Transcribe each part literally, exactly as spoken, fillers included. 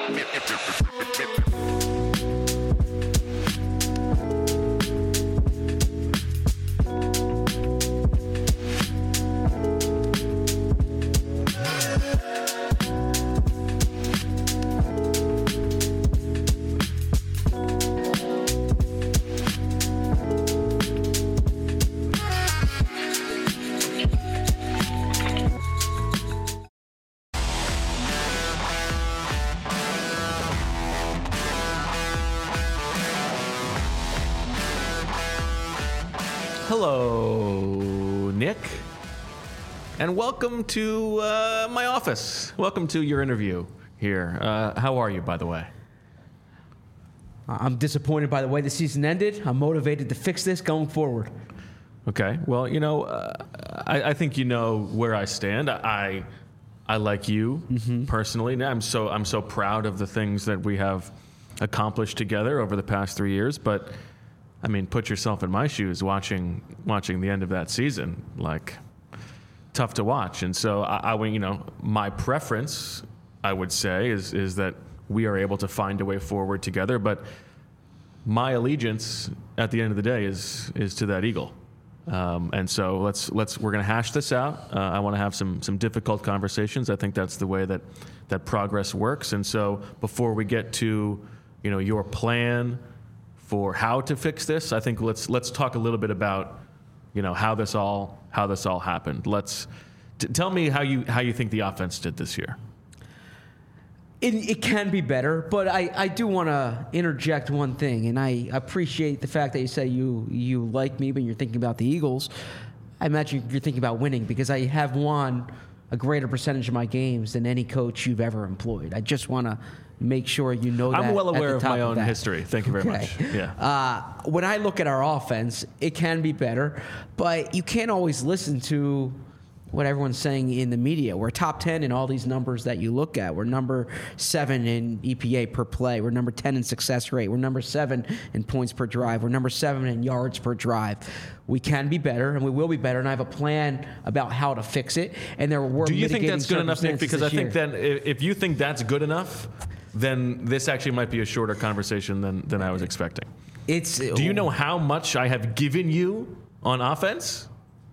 Hello, Nick, and welcome to uh, my office. Welcome to your interview here. Uh, how are you, by the way? I'm disappointed by the way the season ended. I'm motivated to fix this going forward. Okay. Well, you know, uh, I, I think you know where I stand. I, I like you mm-hmm. personally. I'm so I'm so proud of the things that we have accomplished together over the past three years. But I mean, put yourself in my shoes watching watching the end of that season. Like, tough to watch. And so I, I you know, my preference, I would say, is is that we are able to find a way forward together. But my allegiance at the end of the day is is to that Eagle. Um, and so let's let's we're going to hash this out. Uh, I want to have some some difficult conversations. I think that's the way that that progress works. And so before we get to, you know, your plan for how to fix this, I think let's let's talk a little bit about, you know, how this all how this all happened. Let's t- tell me how you how you think the offense did this year. It, it can be better, but I, I do want to interject one thing, and I appreciate the fact that you say you you like me, but you're thinking about the Eagles. I imagine you're thinking about winning because I have won a greater percentage of my games than any coach you've ever employed. I just want to make sure you know that. I'm well aware of my own of history. Thank you very okay. much. Yeah. Uh, when I look at our offense, it can be better, but you can't always listen to what everyone's saying in the media. We're top ten in all these numbers that you look at. We're number seven in E P A per play. We're number ten in success rate. We're number seven in points per drive. We're number seven in yards per drive. We can be better, and we will be better, and I have a plan about how to fix it. And there were Do you think that's good enough, Nick? Because I think year. that if you think that's good enough, then this actually might be a shorter conversation than, than I was expecting. It's. Do you know how much I have given you on offense?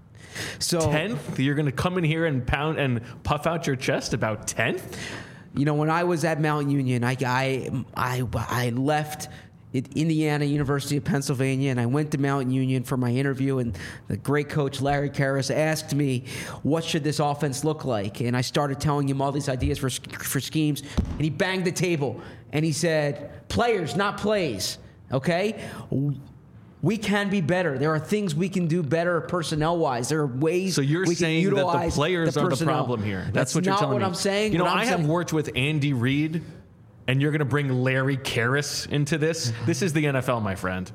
So tenth? You're going to come in here and pound and puff out your chest about tenth? You know, when I was at Mount Union, I, I, I, I left Indiana University of Pennsylvania, and I went to Mount Union for my interview, and the great coach Larry Karras asked me, what should this offense look like? And I started telling him all these ideas for, for schemes, and he banged the table, and he said, players, not plays, okay? We can be better. There are things we can do better personnel-wise. There are ways so you're we saying can utilize that the players the are the problem here. That's, That's what you're not telling what me. I'm saying. You know, I'm I saying, have worked with Andy Reid, and you're going to bring Larry Karras into this? This is the N F L, my friend.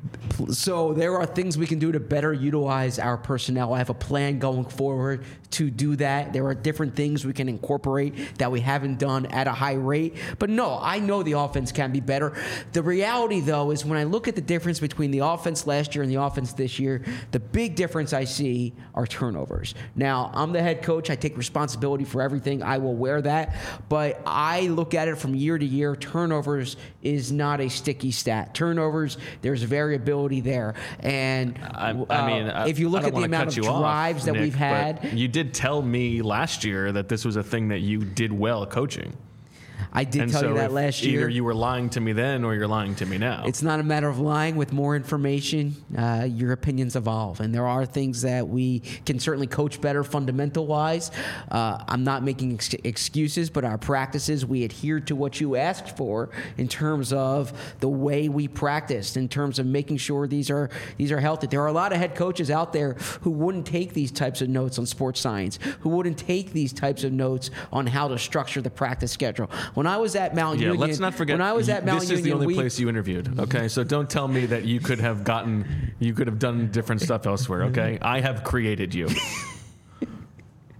So there are things we can do to better utilize our personnel. I have a plan going forward to do that. There are different things we can incorporate that we haven't done at a high rate. But no, I know the offense can be better. The reality, though, is when I look at the difference between the offense last year and the offense this year, the big difference I see are turnovers. Now, I'm the head coach. I take responsibility for everything. I will wear that. But I look at it from year to year. Turnovers is not a sticky stat. Turnovers, there's variability there. And I, I mean, uh, if you look at the amount of drives off, that Nick, we've had. You did tell me last year that this was a thing that you did well coaching. I did and tell so you that last year. Either you were lying to me then or you're lying to me now. It's not a matter of lying. With more information, uh, your opinions evolve. And there are things that we can certainly coach better fundamental-wise. Uh, I'm not making ex- excuses, but our practices, we adhere to what you asked for in terms of the way we practiced, in terms of making sure these are these are healthy. There are a lot of head coaches out there who wouldn't take these types of notes on sports science, who wouldn't take these types of notes on how to structure the practice schedule. When I was at Mount yeah, Union, let's not forget. When I was at Mount this Union, is the only we, place you interviewed. Okay, so don't tell me that you could have gotten, you could have done different stuff elsewhere. Okay, I have created you.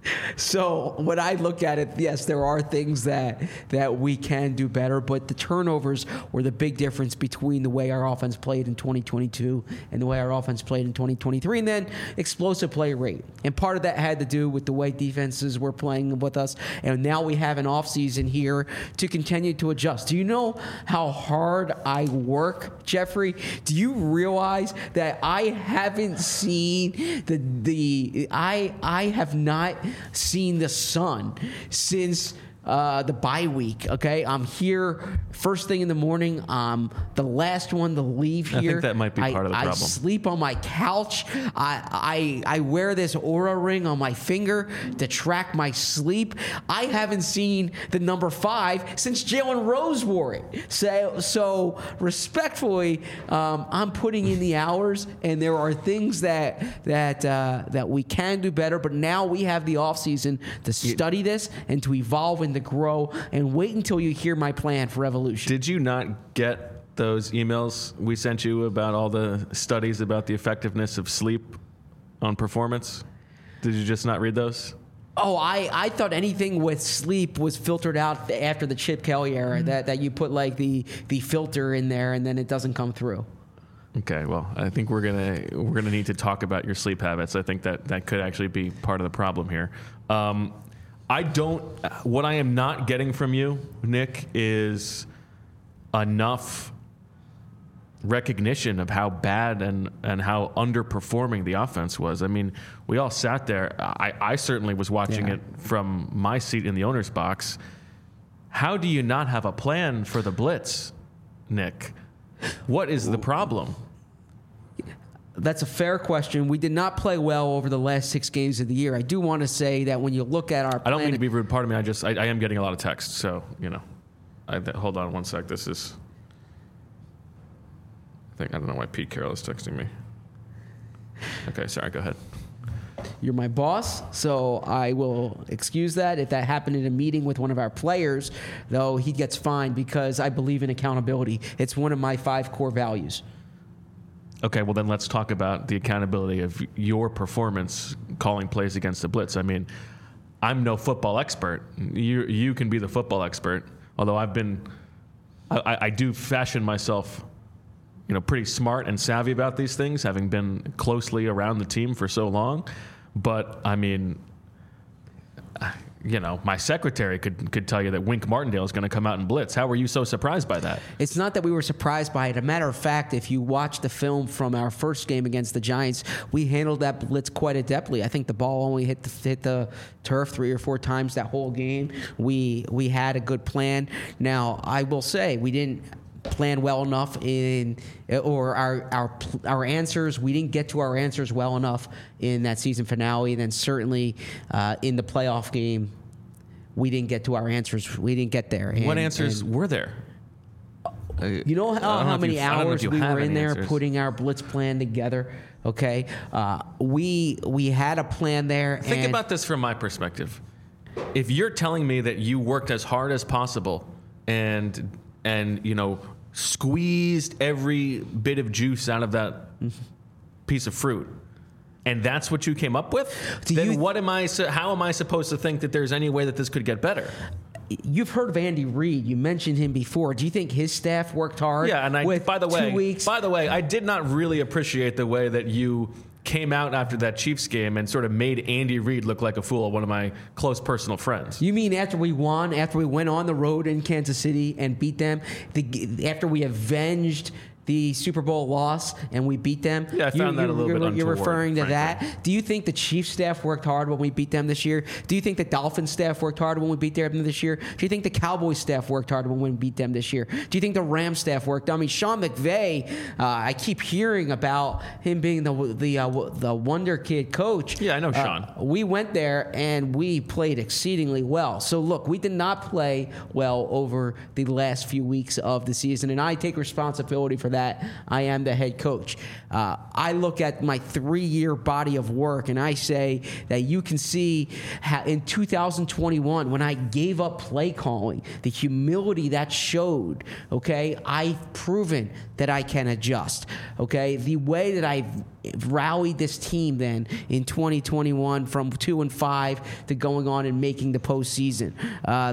So when I look at it, yes, there are things that that we can do better, but the turnovers were the big difference between the way our offense played in twenty twenty-two and the way our offense played in twenty twenty-three, and then explosive play rate. And part of that had to do with the way defenses were playing with us, and now we have an offseason here to continue to adjust. Do you know how hard I work, Jeffrey? Do you realize that I haven't seen the the I I have not seen the sun since uh, the bye week. Okay, I'm here first thing in the morning. I'm the last one to leave here. I think that might be part I, of the I problem. I sleep on my couch. I, I I wear this Oura ring on my finger to track my sleep. I haven't seen the number five since Jalen Rose wore it. So so respectfully, um, I'm putting in the hours, and there are things that that uh, that we can do better. But now we have the offseason to study this and to evolve and to grow. And wait until you hear my plan for evolution. Did you not get those emails we sent you about all the studies about the effectiveness of sleep on performance? Did you just not read those? Oh, I, I thought anything with sleep was filtered out after the Chip Kelly era, mm-hmm. that, that you put like the, the filter in there and then it doesn't come through. Okay, well, I think we're gonna we're gonna need to talk about your sleep habits. I think that that could actually be part of the problem here. Um, I don't. What I am not getting from you, Nick, is enough recognition of how bad and, and how underperforming the offense was. I mean, we all sat there. I, I certainly was watching yeah. it from my seat in the owner's box. How do you not have a plan for the blitz, Nick? What is the problem? That's a fair question. We did not play well over the last six games of the year. I do want to say that when you look at our plan, I don't mean to be rude. Pardon me. I just I, I am getting a lot of text. So, you know, I, hold on one sec. This is, I think, I don't know why Pete Carroll is texting me. Okay, sorry. Go ahead. You're my boss, so I will excuse that. If that happened in a meeting with one of our players, though, he gets fined because I believe in accountability. It's one of my five core values. Okay, well, then let's talk about the accountability of your performance calling plays against the blitz. I mean, I'm no football expert. You you can be the football expert, although I've been, I, I do fashion myself, you know, pretty smart and savvy about these things, having been closely around the team for so long. But, I mean, you know, my secretary could could tell you that Wink Martindale is going to come out and blitz. How were you so surprised by that? It's not that we were surprised by it. A matter of fact, if you watch the film from our first game against the Giants, we handled that blitz quite adeptly. I think the ball only hit the, hit the turf three or four times that whole game. We we had a good plan. Now, I will say, we didn't plan well enough in, or our our our answers. We didn't get to our answers well enough in that season finale, and then certainly uh, in the playoff game, we didn't get to our answers. We didn't get there. And, what answers and, were there? You know how, how many hours we were in there answers. putting our blitz plan together. Okay, uh, we we had a plan there. Think and about this from my perspective. If you're telling me that you worked as hard as possible and and you know squeezed every bit of juice out of that piece of fruit, and that's what you came up with, Do then you, what am I? How am I supposed to think that there's any way that this could get better? You've heard of Andy Reid. You mentioned him before. Do you think his staff worked hard? Yeah, and I. With by the way, two weeks? by the way, I did not really appreciate the way that you came out after that Chiefs game and sort of made Andy Reid look like a fool, one of my close personal friends. You mean after we won, after we went on the road in Kansas City and beat them, the, after we avenged the Super Bowl loss and we beat them? Yeah, I found you, that a little you're, bit You're untoward, referring to frankly. that? Do you think the Chiefs staff worked hard when we beat them this year? Do you think the Dolphins staff worked hard when we beat them this year? Do you think the Cowboys staff worked hard when we beat them this year? Do you think the Rams staff worked? I mean, Sean McVay, uh, I keep hearing about him being the the uh, the wonder kid coach. Yeah, I know Sean. Uh, we went there and we played exceedingly well. So look, we did not play well over the last few weeks of the season, and I take responsibility for that I am the head coach. Uh, I look at my three-year body of work, and I say that you can see how in two thousand twenty-one, when I gave up play calling, the humility that showed, okay, I've proven that I can adjust, okay? The way that I've rallied this team then in twenty twenty-one from two and five to going on and making the postseason. Uh,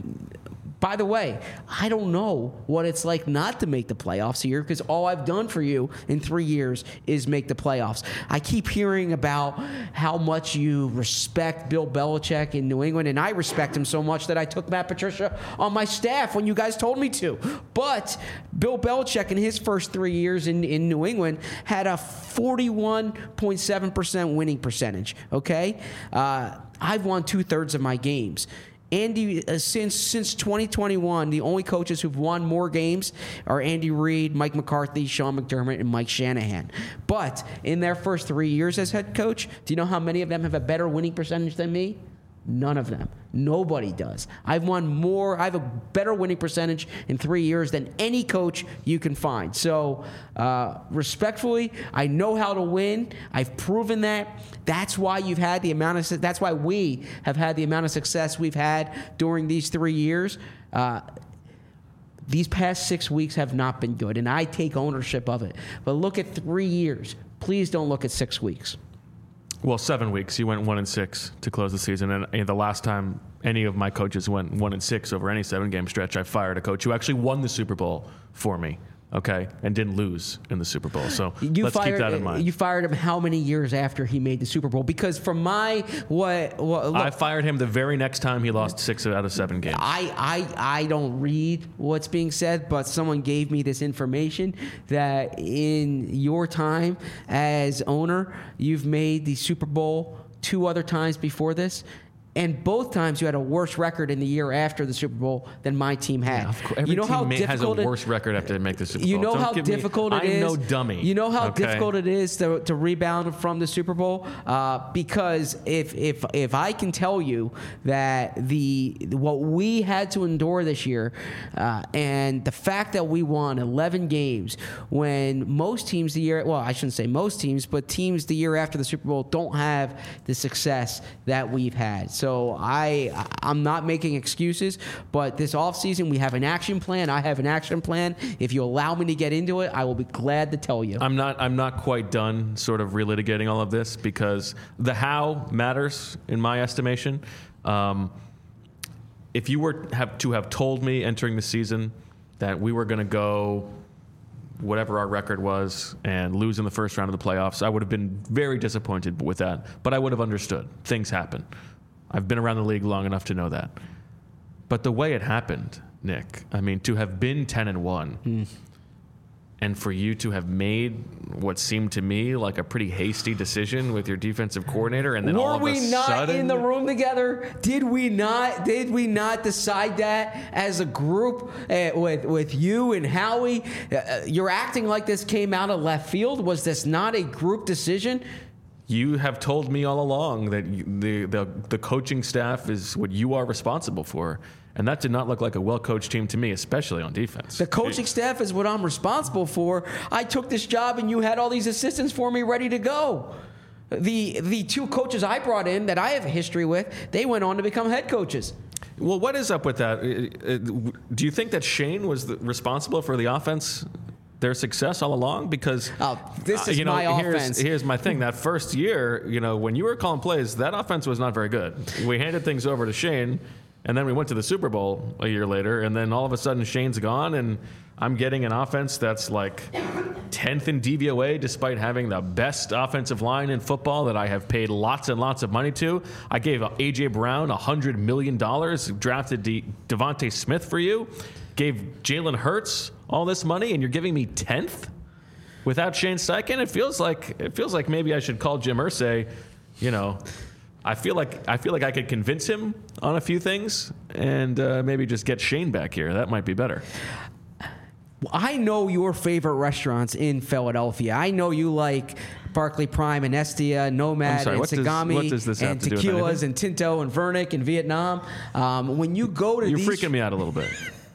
By the way, I don't know what it's like not to make the playoffs here because all I've done for you in three years is make the playoffs. I keep hearing about how much you respect Bill Belichick in New England, and I respect him so much that I took Matt Patricia on my staff when you guys told me to. But Bill Belichick in his first three years in, in New England had a forty-one point seven percent winning percentage, okay? Uh, I've won two-thirds of my games. Andy, uh, since since twenty twenty-one, the only coaches who've won more games are Andy Reid, Mike McCarthy, Sean McDermott, and Mike Shanahan. But in their first three years as head coach, do you know how many of them have a better winning percentage than me? None of them. Nobody does. I've won more. I have a better winning percentage in three years than any coach you can find. So, uh, respectfully, I know how to win. I've proven that. That's why you've had the amount of. That's why we have had the amount of success we've had during these three years. Uh, these past six weeks have not been good, and I take ownership of it. But look at three years. Please don't look at six weeks. Well, seven weeks. You went one and six to close the season, and, and the last time any of my coaches went one and six over any seven-game stretch, I fired a coach who actually won the Super Bowl for me. Okay, and didn't lose in the Super Bowl. So you let's fired, keep that in mind. You fired him how many years after he made the Super Bowl? Because from my what, what look, I fired him the very next time he lost six out of seven games. I, I I don't read what's being said, but someone gave me this information that in your time as owner, you've made the Super Bowl two other times before this. And both times you had a worse record in the year after the Super Bowl than my team had. Yeah, of course. Every you know team how may, difficult has a it, worse record after they make the Super Bowl. You know Don't how give difficult me, it is. I'm no dummy. You know how okay? difficult it is to, to rebound from the Super Bowl. Uh, because if if if I can tell you that the what we had to endure this year, uh, and the fact that we won eleven games when most teams the year well I shouldn't say most teams, but teams the year after the Super Bowl don't have the success that we've had. So I I'm not making excuses, but this offseason we have an action plan. I have an action plan. If you allow me to get into it, I will be glad to tell you. I'm not I'm not quite done sort of relitigating all of this because the how matters in my estimation. Um, if you were have to have told me entering the season that we were going to go whatever our record was and lose in the first round of the playoffs, I would have been very disappointed with that, but I would have understood. Things happen. I've been around the league long enough to know that. But the way it happened, Nick, I mean, to have been ten and one mm. and for you to have made what seemed to me like a pretty hasty decision with your defensive coordinator, and then Were all of a we not sudden, in the room together? Did we not? Did we not decide that as a group uh, with with you and Howie? Uh, you're acting like this came out of left field. Was this not a group decision? You have told me all along that you, the, the the coaching staff is what you are responsible for, and that did not look like a well-coached team to me, especially on defense. The coaching staff is what I'm responsible for. I took this job, and you had all these assistants for me ready to go. The the two coaches I brought in that I have a history with, they went on to become head coaches. Well, what is up with that? Do you think that Shane was the, responsible for the offense? Their success all along? Because oh, this is uh, you know, my here's, offense. Here's my thing. That first year, you know, when you were calling plays, that offense was not very good. We handed things over to Shane, and then we went to the Super Bowl a year later, and then all of a sudden Shane's gone, and I'm getting an offense that's like tenth in D V O A despite having the best offensive line in football that I have paid lots and lots of money to. I gave A J. Brown one hundred million dollars, drafted De- Devontae Smith for you, gave Jalen Hurts all this money, and you're giving me tenth without Shane Steichen? It feels like it feels like maybe I should call Jim Irsay. You know, I feel like I feel like I could convince him on a few things, and uh, maybe just get Shane back here. That might be better. I know your favorite restaurants in Philadelphia. I know you like Barclay Prime and Estia, Nomad sorry, and what does- Sagami what does this have and to do with tequilas anything? and Tinto and Vernick in Vietnam. Um, when you go to You're these, freaking me out a little bit.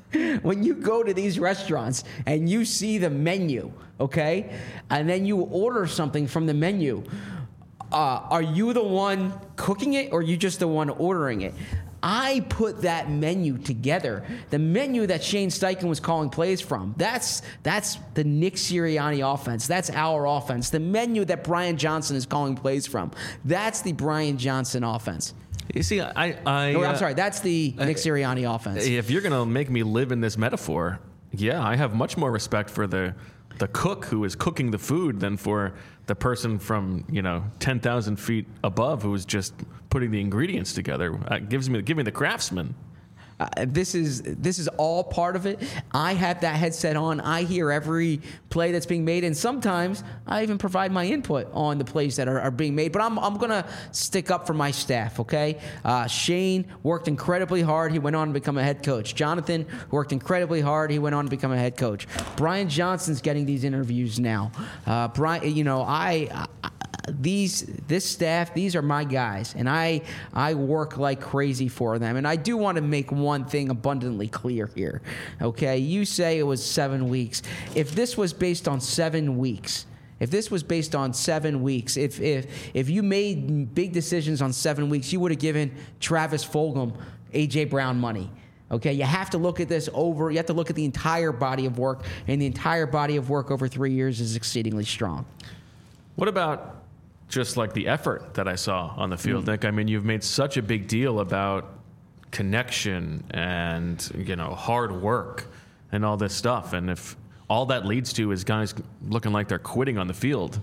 when you go to these restaurants and you see the menu, okay, and then you order something from the menu, uh, are you the one cooking it or are you just the one ordering it? I put that menu together. The menu that Shane Steichen was calling plays from. That's that's the Nick Sirianni offense. That's our offense. The menu that Brian Johnson is calling plays from. That's the Brian Johnson offense. You see, I... I oh, I'm uh, sorry. That's the Nick Sirianni offense. If you're going to make me live in this metaphor, yeah, I have much more respect for the the cook who is cooking the food than for the person from, you know, ten thousand feet above who is just putting the ingredients together. Uh, gives me, give me the craftsman. Uh, this is this is all part of it. I have that headset on. I hear every play that's being made, and sometimes I even provide my input on the plays that are, are being made. But I'm I'm gonna stick up for my staff. Okay, uh, Shane worked incredibly hard. He went on to become a head coach. Jonathan worked incredibly hard. He went on to become a head coach. Brian Johnson's getting these interviews now. Uh, Brian, you know, I, I these this staff, these are my guys, and I I work like crazy for them. And I do want to make one thing abundantly clear here. Okay, you say it was seven weeks. If this was based on seven weeks, if this was based on seven weeks, if if if you made big decisions on seven weeks, you would have given Travis Fulgham A J Brown money. Okay, you have to look at this over, you have to look at the entire body of work, and the entire body of work over three years is exceedingly strong. What about just like the effort that I saw on the field, mm. Nick? I mean, you've made such a big deal about connection and, you know, hard work and all this stuff. And if all that leads to is guys looking like they're quitting on the field,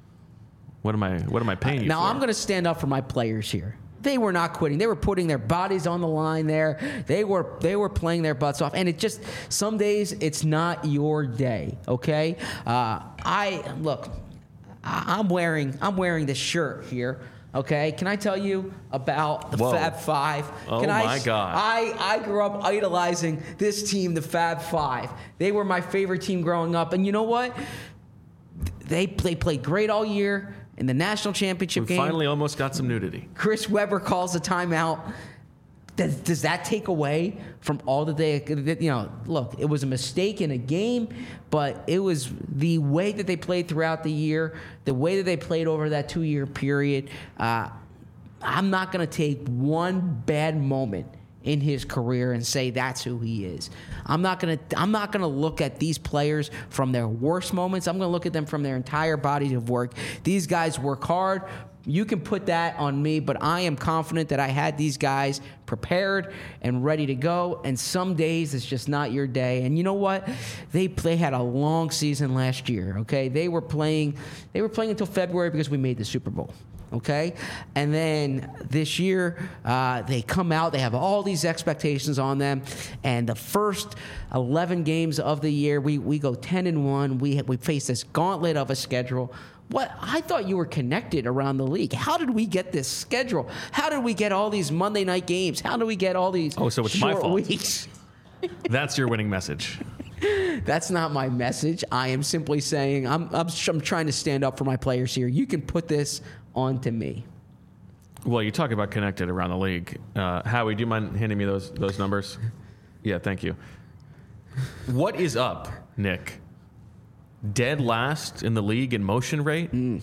what am I, what am I paying you now, for? I'm going to stand up for my players here. They were not quitting. They were putting their bodies on the line there. They were they were playing their butts off. And it just, some days it's not your day, okay? Uh, I, look, I'm wearing I'm wearing this shirt here. Okay, can I tell you about the Whoa. Fab Five? Oh Can my I, God! I I grew up idolizing this team, the Fab Five. They were my favorite team growing up, and you know what? They they played great all year in the national championship we game. Finally, almost got some nudity. Chris Webber calls a timeout. Does, does that take away from all that they, you know, look, it was a mistake in a game, but it was the way that they played throughout the year, the way that they played over that two-year period. Uh, I'm not going to take one bad moment in his career and say that's who he is. I'm not going to I'm not going to look at these players from their worst moments. I'm going to look at them from their entire body of work. These guys work hard. You can put that on me, but I am confident that I had these guys prepared and ready to go. And some days it's just not your day. And you know what? They they had a long season last year. Okay, they were playing they were playing until February because we made the Super Bowl. Okay, and then this year uh, they come out. They have all these expectations on them, and the first eleven games of the year, we we go ten and one. We we face this gauntlet of a schedule. What I thought you were connected around the league. How did we get this schedule? How did we get all these Monday night games? How did we get all these oh, so it's short my fault. weeks? That's your winning message. That's not my message. I am simply saying I'm, I'm I'm trying to stand up for my players here. You can put this onto me. Well, you talk about connected around the league. Uh, Howie, do you mind handing me those those numbers? Yeah, thank you. What is up, Nick? Dead last in the league in motion rate, mm.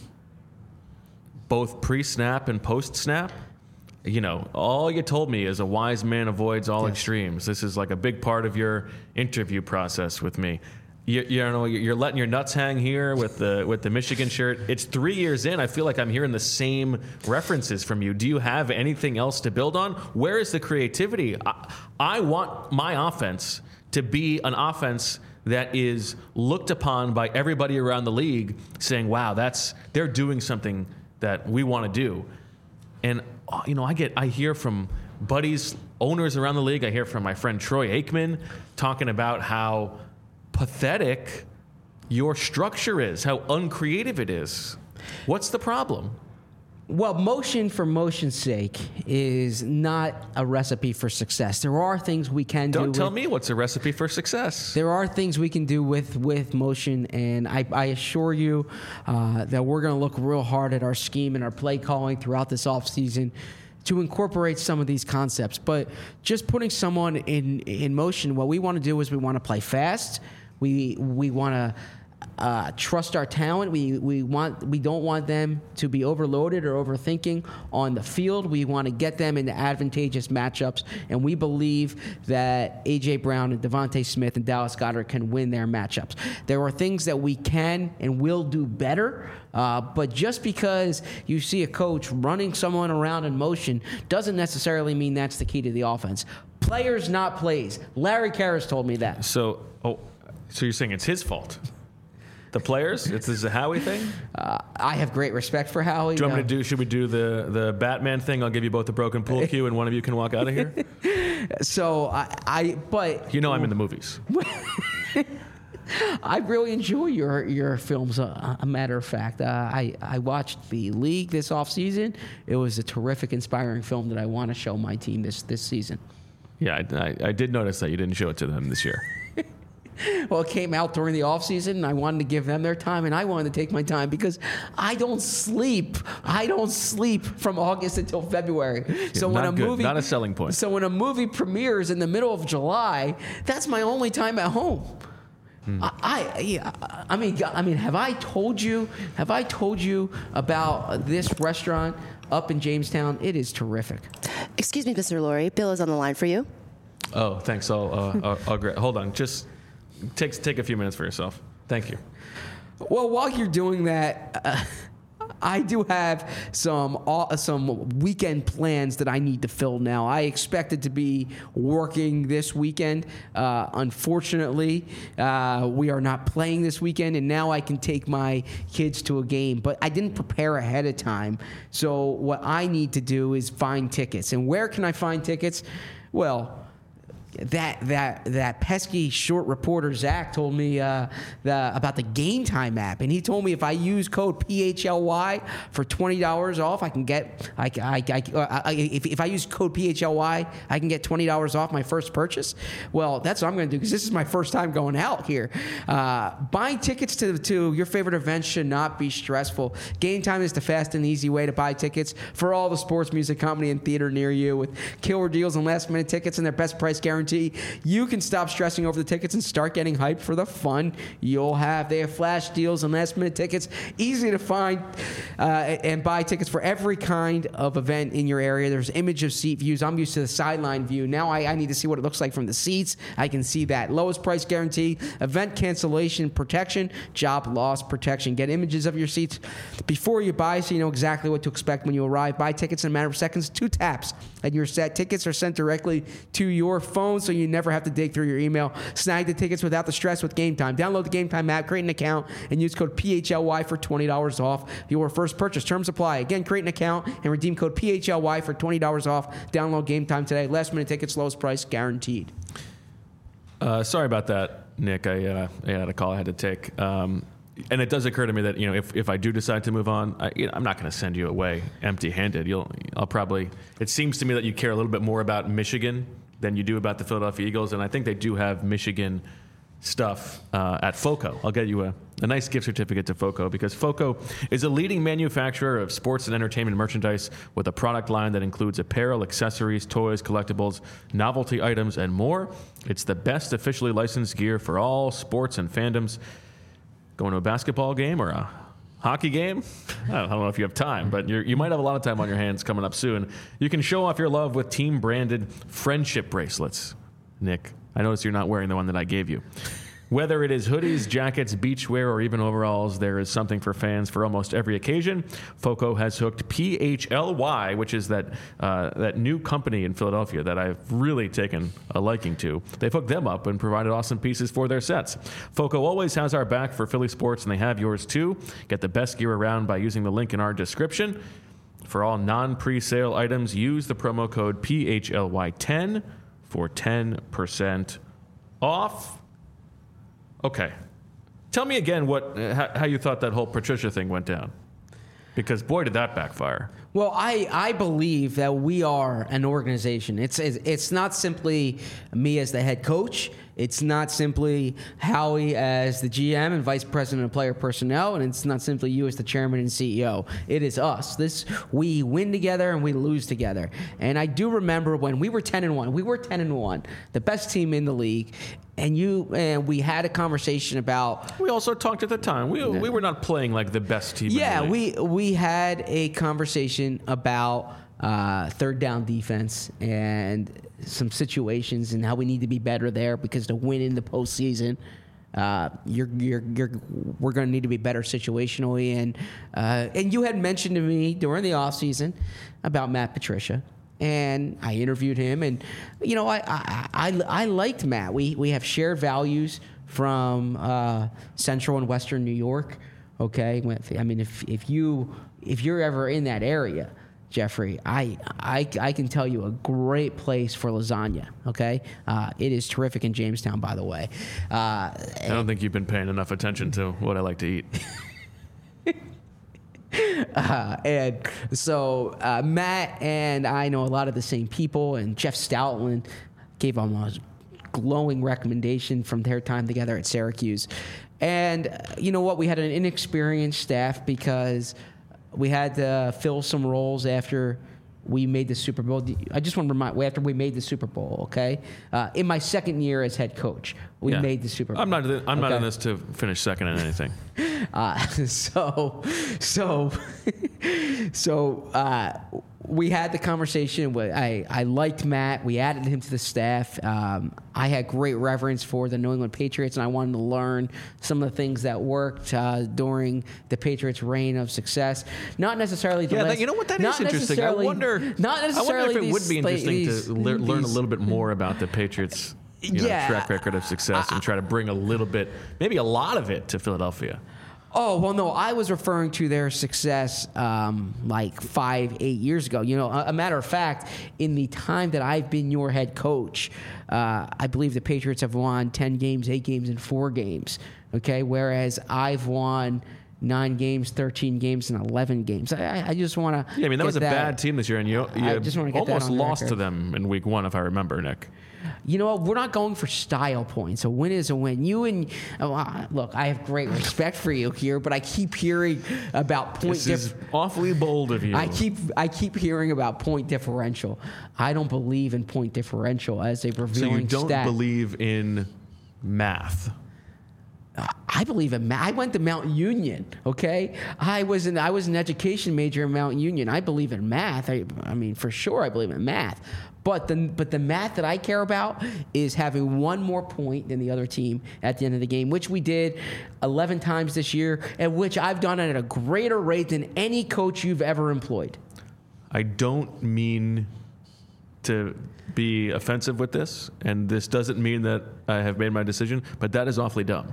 both pre-snap and post-snap. You know, all you told me is a wise man avoids all yes. extremes. This is like a big part of your interview process with me. You, you know, you're letting your nuts hang here with the with the Michigan shirt. It's three years in. I feel like I'm hearing the same references from you. Do you have anything else to build on? Where is the creativity? I, I want my offense to be an offense that is looked upon by everybody around the league saying, wow, that's they're doing something that we want to do. And, you know, I get I hear from buddies, owners around the league. I hear from my friend Troy Aikman talking about how pathetic your structure is, how uncreative it is. What's the problem? Well, motion for motion's sake is not a recipe for success. There are things we can do. Don't tell with, me what's a recipe for success. There are things we can do with, with motion, and I, I assure you uh, that we're going to look real hard at our scheme and our play calling throughout this offseason to incorporate some of these concepts. But just putting someone in in motion, what we want to do is we want to play fast. We we want to uh, trust our talent. We we want we don't want them to be overloaded or overthinking on the field. We want to get them into advantageous matchups, and we believe that A J Brown and Devontae Smith and Dallas Goedert can win their matchups. There are things that we can and will do better, uh, but just because you see a coach running someone around in motion doesn't necessarily mean that's the key to the offense. Players, not plays. Larry Karras told me that. So, oh, so you're saying it's his fault? The players? It's this is a Howie thing? Uh, I have great respect for Howie. Do you want me uh, to do, should we do the, the Batman thing? I'll give you both a broken pool cue and one of you can walk out of here. So, I, I but... You know I'm in the movies. I really enjoy your your films, uh, a matter of fact. Uh, I, I watched The League this offseason. It was a terrific, inspiring film that I want to show my team this, this season. Yeah, I, I, I did notice that you didn't show it to them this year. Well, it came out during the offseason, and I wanted to give them their time, and I wanted to take my time because I don't sleep. I don't sleep from August until February. So Not when a good. movie, Not a selling point. So when a movie premieres in the middle of July, that's my only time at home. Hmm. I, I, yeah, I mean, I mean, have I told you? Have I told you about this restaurant up in Jamestown? It is terrific. Excuse me, Mister Lurie. Bill is on the line for you. Oh, thanks. I'll, uh, I'll, I'll gra- hold on. Just take take a few minutes for yourself. Thank you. Well, while you're doing that, uh, I do have some uh, some weekend plans that I need to fill now. I expected to be working this weekend. Uh, unfortunately, uh, we are not playing this weekend, and now I can take my kids to a game. But I didn't prepare ahead of time. So what I need to do is find tickets. And where can I find tickets? Well, That that that pesky short reporter Zach told me uh, the, about the Game Time app, and he told me if I use code P H L Y for twenty dollars off, I can get I, I, I, uh, I if, if I use code P H L Y, I can get twenty dollars off my first purchase. Well, that's what I'm going to do because this is my first time going out here. Uh, buying tickets to to your favorite events should not be stressful. Game Time is the fast and easy way to buy tickets for all the sports, music, comedy, and theater near you with killer deals and last minute tickets and their best price guarantee. You can stop stressing over the tickets and start getting hyped for the fun you'll have. They have flash deals and last minute tickets, easy to find uh, and buy tickets for every kind of event in your area. There's image of seat views. I'm used to the sideline view. Now I, I need to see what it looks like from the seats. I can see that. Lowest price guarantee, event cancellation protection, job loss protection. Get images of your seats before you buy so you know exactly what to expect when you arrive. Buy tickets in a matter of seconds, two taps, and you're set. Tickets are sent directly to your phone, so you never have to dig through your email. Snag the tickets without the stress with Game Time. Download the Game Time app, create an account, and use code P H L Y for twenty dollars off your first purchase. Terms apply. Again, create an account and redeem code P H L Y for twenty dollars off. Download Game Time today. Last minute tickets, lowest price guaranteed. Uh, sorry about that, Nick. I, uh, I had a call I had to take. Um, and it does occur to me that, you know, if, if I do decide to move on, I, you know, I'm not going to send you away empty-handed. You'll, I'll probably. It seems to me that you care a little bit more about Michigan than you do about the Philadelphia Eagles, and I think they do have Michigan stuff uh, at FOCO. I'll get you a, a nice gift certificate to FOCO because FOCO is a leading manufacturer of sports and entertainment merchandise with a product line that includes apparel, accessories, toys, collectibles, novelty items, and more. It's the best officially licensed gear for all sports and fandoms. Going to a basketball game or a hockey game? I don't, I don't know if you have time, but you're, you might have a lot of time on your hands coming up soon. You can show off your love with team-branded friendship bracelets. Nick, I notice you're not wearing the one that I gave you. Whether it is hoodies, jackets, beachwear, or even overalls, there is something for fans for almost every occasion. FOCO has hooked P H L Y, which is that uh, that new company in Philadelphia that I've really taken a liking to. They've hooked them up and provided awesome pieces for their sets. FOCO always has our back for Philly sports, and they have yours too. Get the best gear around by using the link in our description. For all non-pre-sale items, use the promo code P H L Y ten for ten percent off. Okay. Tell me again what how, how you thought that whole Patricia thing went down. Because boy, did that backfire. Well, I, I believe that we are an organization. It's, it's it's not simply me as the head coach. It's not simply Howie as the G M and vice president of player personnel, and it's not simply you as the chairman and C E O. It is us. This we win together and we lose together. And I do remember when we were ten and one. We were ten and one, the best team in the league. And you and we had a conversation about. We also talked at the time. We we were not playing like the best team. Yeah, in the league. we we had a conversation about uh, third down defense and some situations and how we need to be better there because to win in the postseason, uh, you're you're you're we're going to need to be better situationally. And uh, and you had mentioned to me during the offseason about Matt Patricia. And I interviewed him, and you know, I I, I, I liked Matt. We we have shared values from uh, Central and Western New York. Okay, I mean, if if you if you're ever in that area, Jeffrey, I I, I can tell you a great place for lasagna. Okay, uh, it is terrific in Jamestown, by the way. Uh, I don't think you've been paying enough attention to what I like to eat. Uh, and so uh, Matt and I know a lot of the same people, and Jeff Stoutland gave him a glowing recommendation from their time together at Syracuse. And uh, you know what? We had an inexperienced staff because we had to fill some roles after we made the Super Bowl. I just want to remind after we made the Super Bowl, okay? Uh, in my second year as head coach, we yeah. made the Super Bowl. I'm not. I'm okay? not in this to finish second in anything. Uh, so, so, so uh, we had the conversation. With, I I liked Matt. We added him to the staff. Um, I had great reverence for the New England Patriots, and I wanted to learn some of the things that worked uh, during the Patriots' reign of success. Not necessarily. The yeah, last, you know what? That is interesting. I wonder. Not necessarily. I wonder if it these, would be interesting these, to le- learn these, a little bit more about the Patriots' you know, yeah, track record of success and try to bring a little bit, maybe a lot of it, to Philadelphia. Oh, well, no, I was referring to their success um, like five, eight years ago. You know, a, a matter of fact, in the time that I've been your head coach, uh, I believe the Patriots have won ten games, eight games, and four games, okay? Whereas I've won nine games, thirteen games, and eleven games. I, I just want to Yeah, I mean, that was a that, bad team this year, and you, you just get almost that on lost record. to them in week one, if I remember, Nick. You know what? We're not going for style points. A win is a win. You and oh, look, I have great respect for you here, but I keep hearing about point. This is dif- awfully bold of you. I keep I keep hearing about point differential. I don't believe in point differential as a revealing So you don't stat. believe in math. I believe in math. I went to Mount Union. Okay, I was an I was an education major in Mount Union. I believe in math. I, I mean, for sure, I believe in math. But the but the math that I care about is having one more point than the other team at the end of the game, which we did eleven times this year, and which I've done at a greater rate than any coach you've ever employed. I don't mean to be offensive with this, and this doesn't mean that I have made my decision, but that is awfully dumb.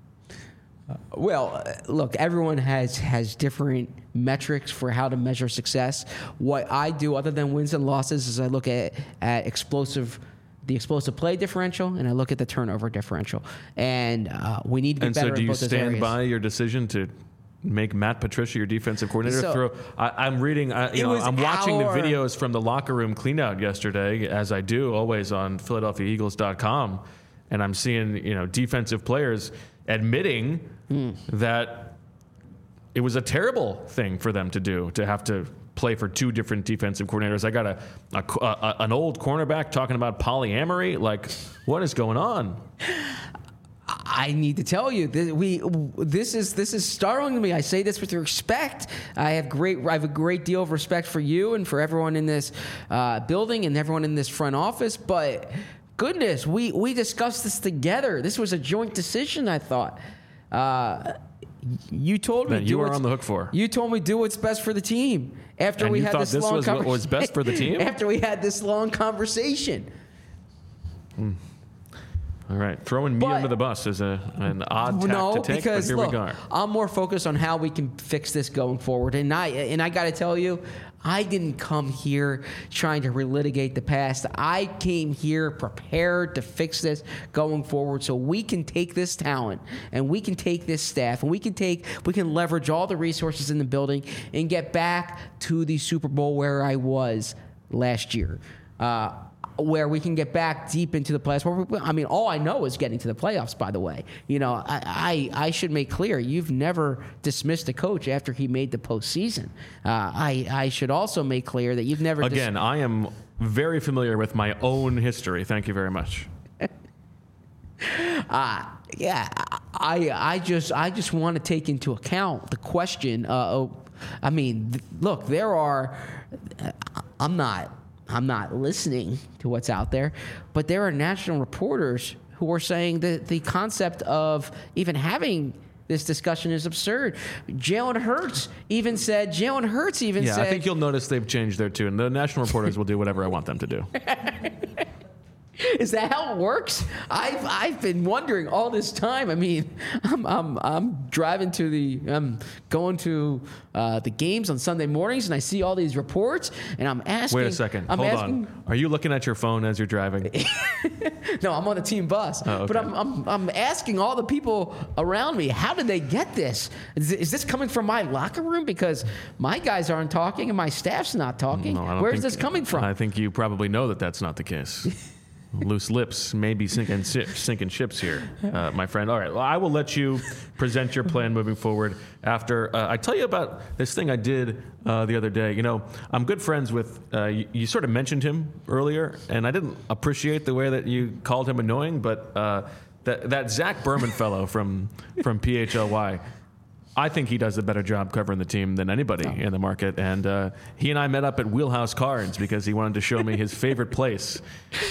Well, look, everyone has, has different metrics for how to measure success. What I do, other than wins and losses, is I look at, at explosive, the explosive play differential, and I look at the turnover differential. And uh, we need to be and better so do in you both those stand areas. by your decision to make Matt Patricia your defensive coordinator? So, throw, I, I'm reading, I, you it know, was I'm watching our- the videos from the locker room cleanout yesterday, as I do always on Philadelphia Eagles dot com, and I'm seeing, you know, defensive players admitting mm. that it was a terrible thing for them to do, to have to play for two different defensive coordinators. I got a, a, a an old cornerback talking about polyamory. Like, what is going on? I need to tell you that we this is this is startling to me. I say this with respect. I have great I have a great deal of respect for you and for everyone in this uh, building and everyone in this front office. But goodness, we we discussed this together. This was a joint decision, I thought. Uh, you told me that do you are what's- on the hook for. You told me do what's best for the team. After And we you had thought this, this long was what conversation. was best for the team? After we had this long conversation. Hmm. All right, throwing me But- under the bus is a an odd tack No, to take, because but here look, we go. I'm more focused on how we can fix this going forward. And I and I got to tell you, I didn't come here trying to relitigate the past. I came here prepared to fix this going forward, so we can take this talent and we can take this staff and we can take we can leverage all the resources in the building and get back to the Super Bowl where I was last year. Uh, where we can get back deep into the playoffs. Where we, I mean, all I know is getting to the playoffs, by the way. You know, I, I, I should make clear, you've never dismissed a coach after he made the postseason. Uh, I, I should also make clear that you've never... Again, dis- I am very familiar with my own history. Thank you very much. Uh, yeah, I, I just I just want to take into account the question. Uh, oh, I mean, th- look, there are... I'm not... I'm not listening to what's out there, but there are national reporters who are saying that the concept of even having this discussion is absurd. Jalen Hurts even said, Jalen Hurts even Yeah, said... I think you'll notice they've changed their tune. The national reporters will do whatever I want them to do. Is that how it works? I've I've been wondering all this time. I mean, I'm I'm I'm driving to the I'm going to uh, the games on Sunday mornings, and I see all these reports, and I'm asking. Wait a second. I'm Hold asking, on. Are you looking at your phone as you're driving? No, I'm on the team bus. Oh, okay. But I'm, I'm I'm asking all the people around me, how did they get this? Is, is this coming from my locker room? Because my guys aren't talking and my staff's not talking. No, I don't Where's think- this coming from? I think you probably know that that's not the case. Loose lips may be sinking, si- sinking ships here, uh, my friend. All right, well, I will let you present your plan moving forward after uh, I tell you about this thing I did uh, the other day. You know, I'm good friends with, uh, you, you sort of mentioned him earlier, and I didn't appreciate the way that you called him annoying, but uh, that, that Zach Berman fellow from, from P H L Y, I think he does a better job covering the team than anybody Oh. in the market. And uh, he and I met up at Wheelhouse Cards because he wanted to show me his favorite place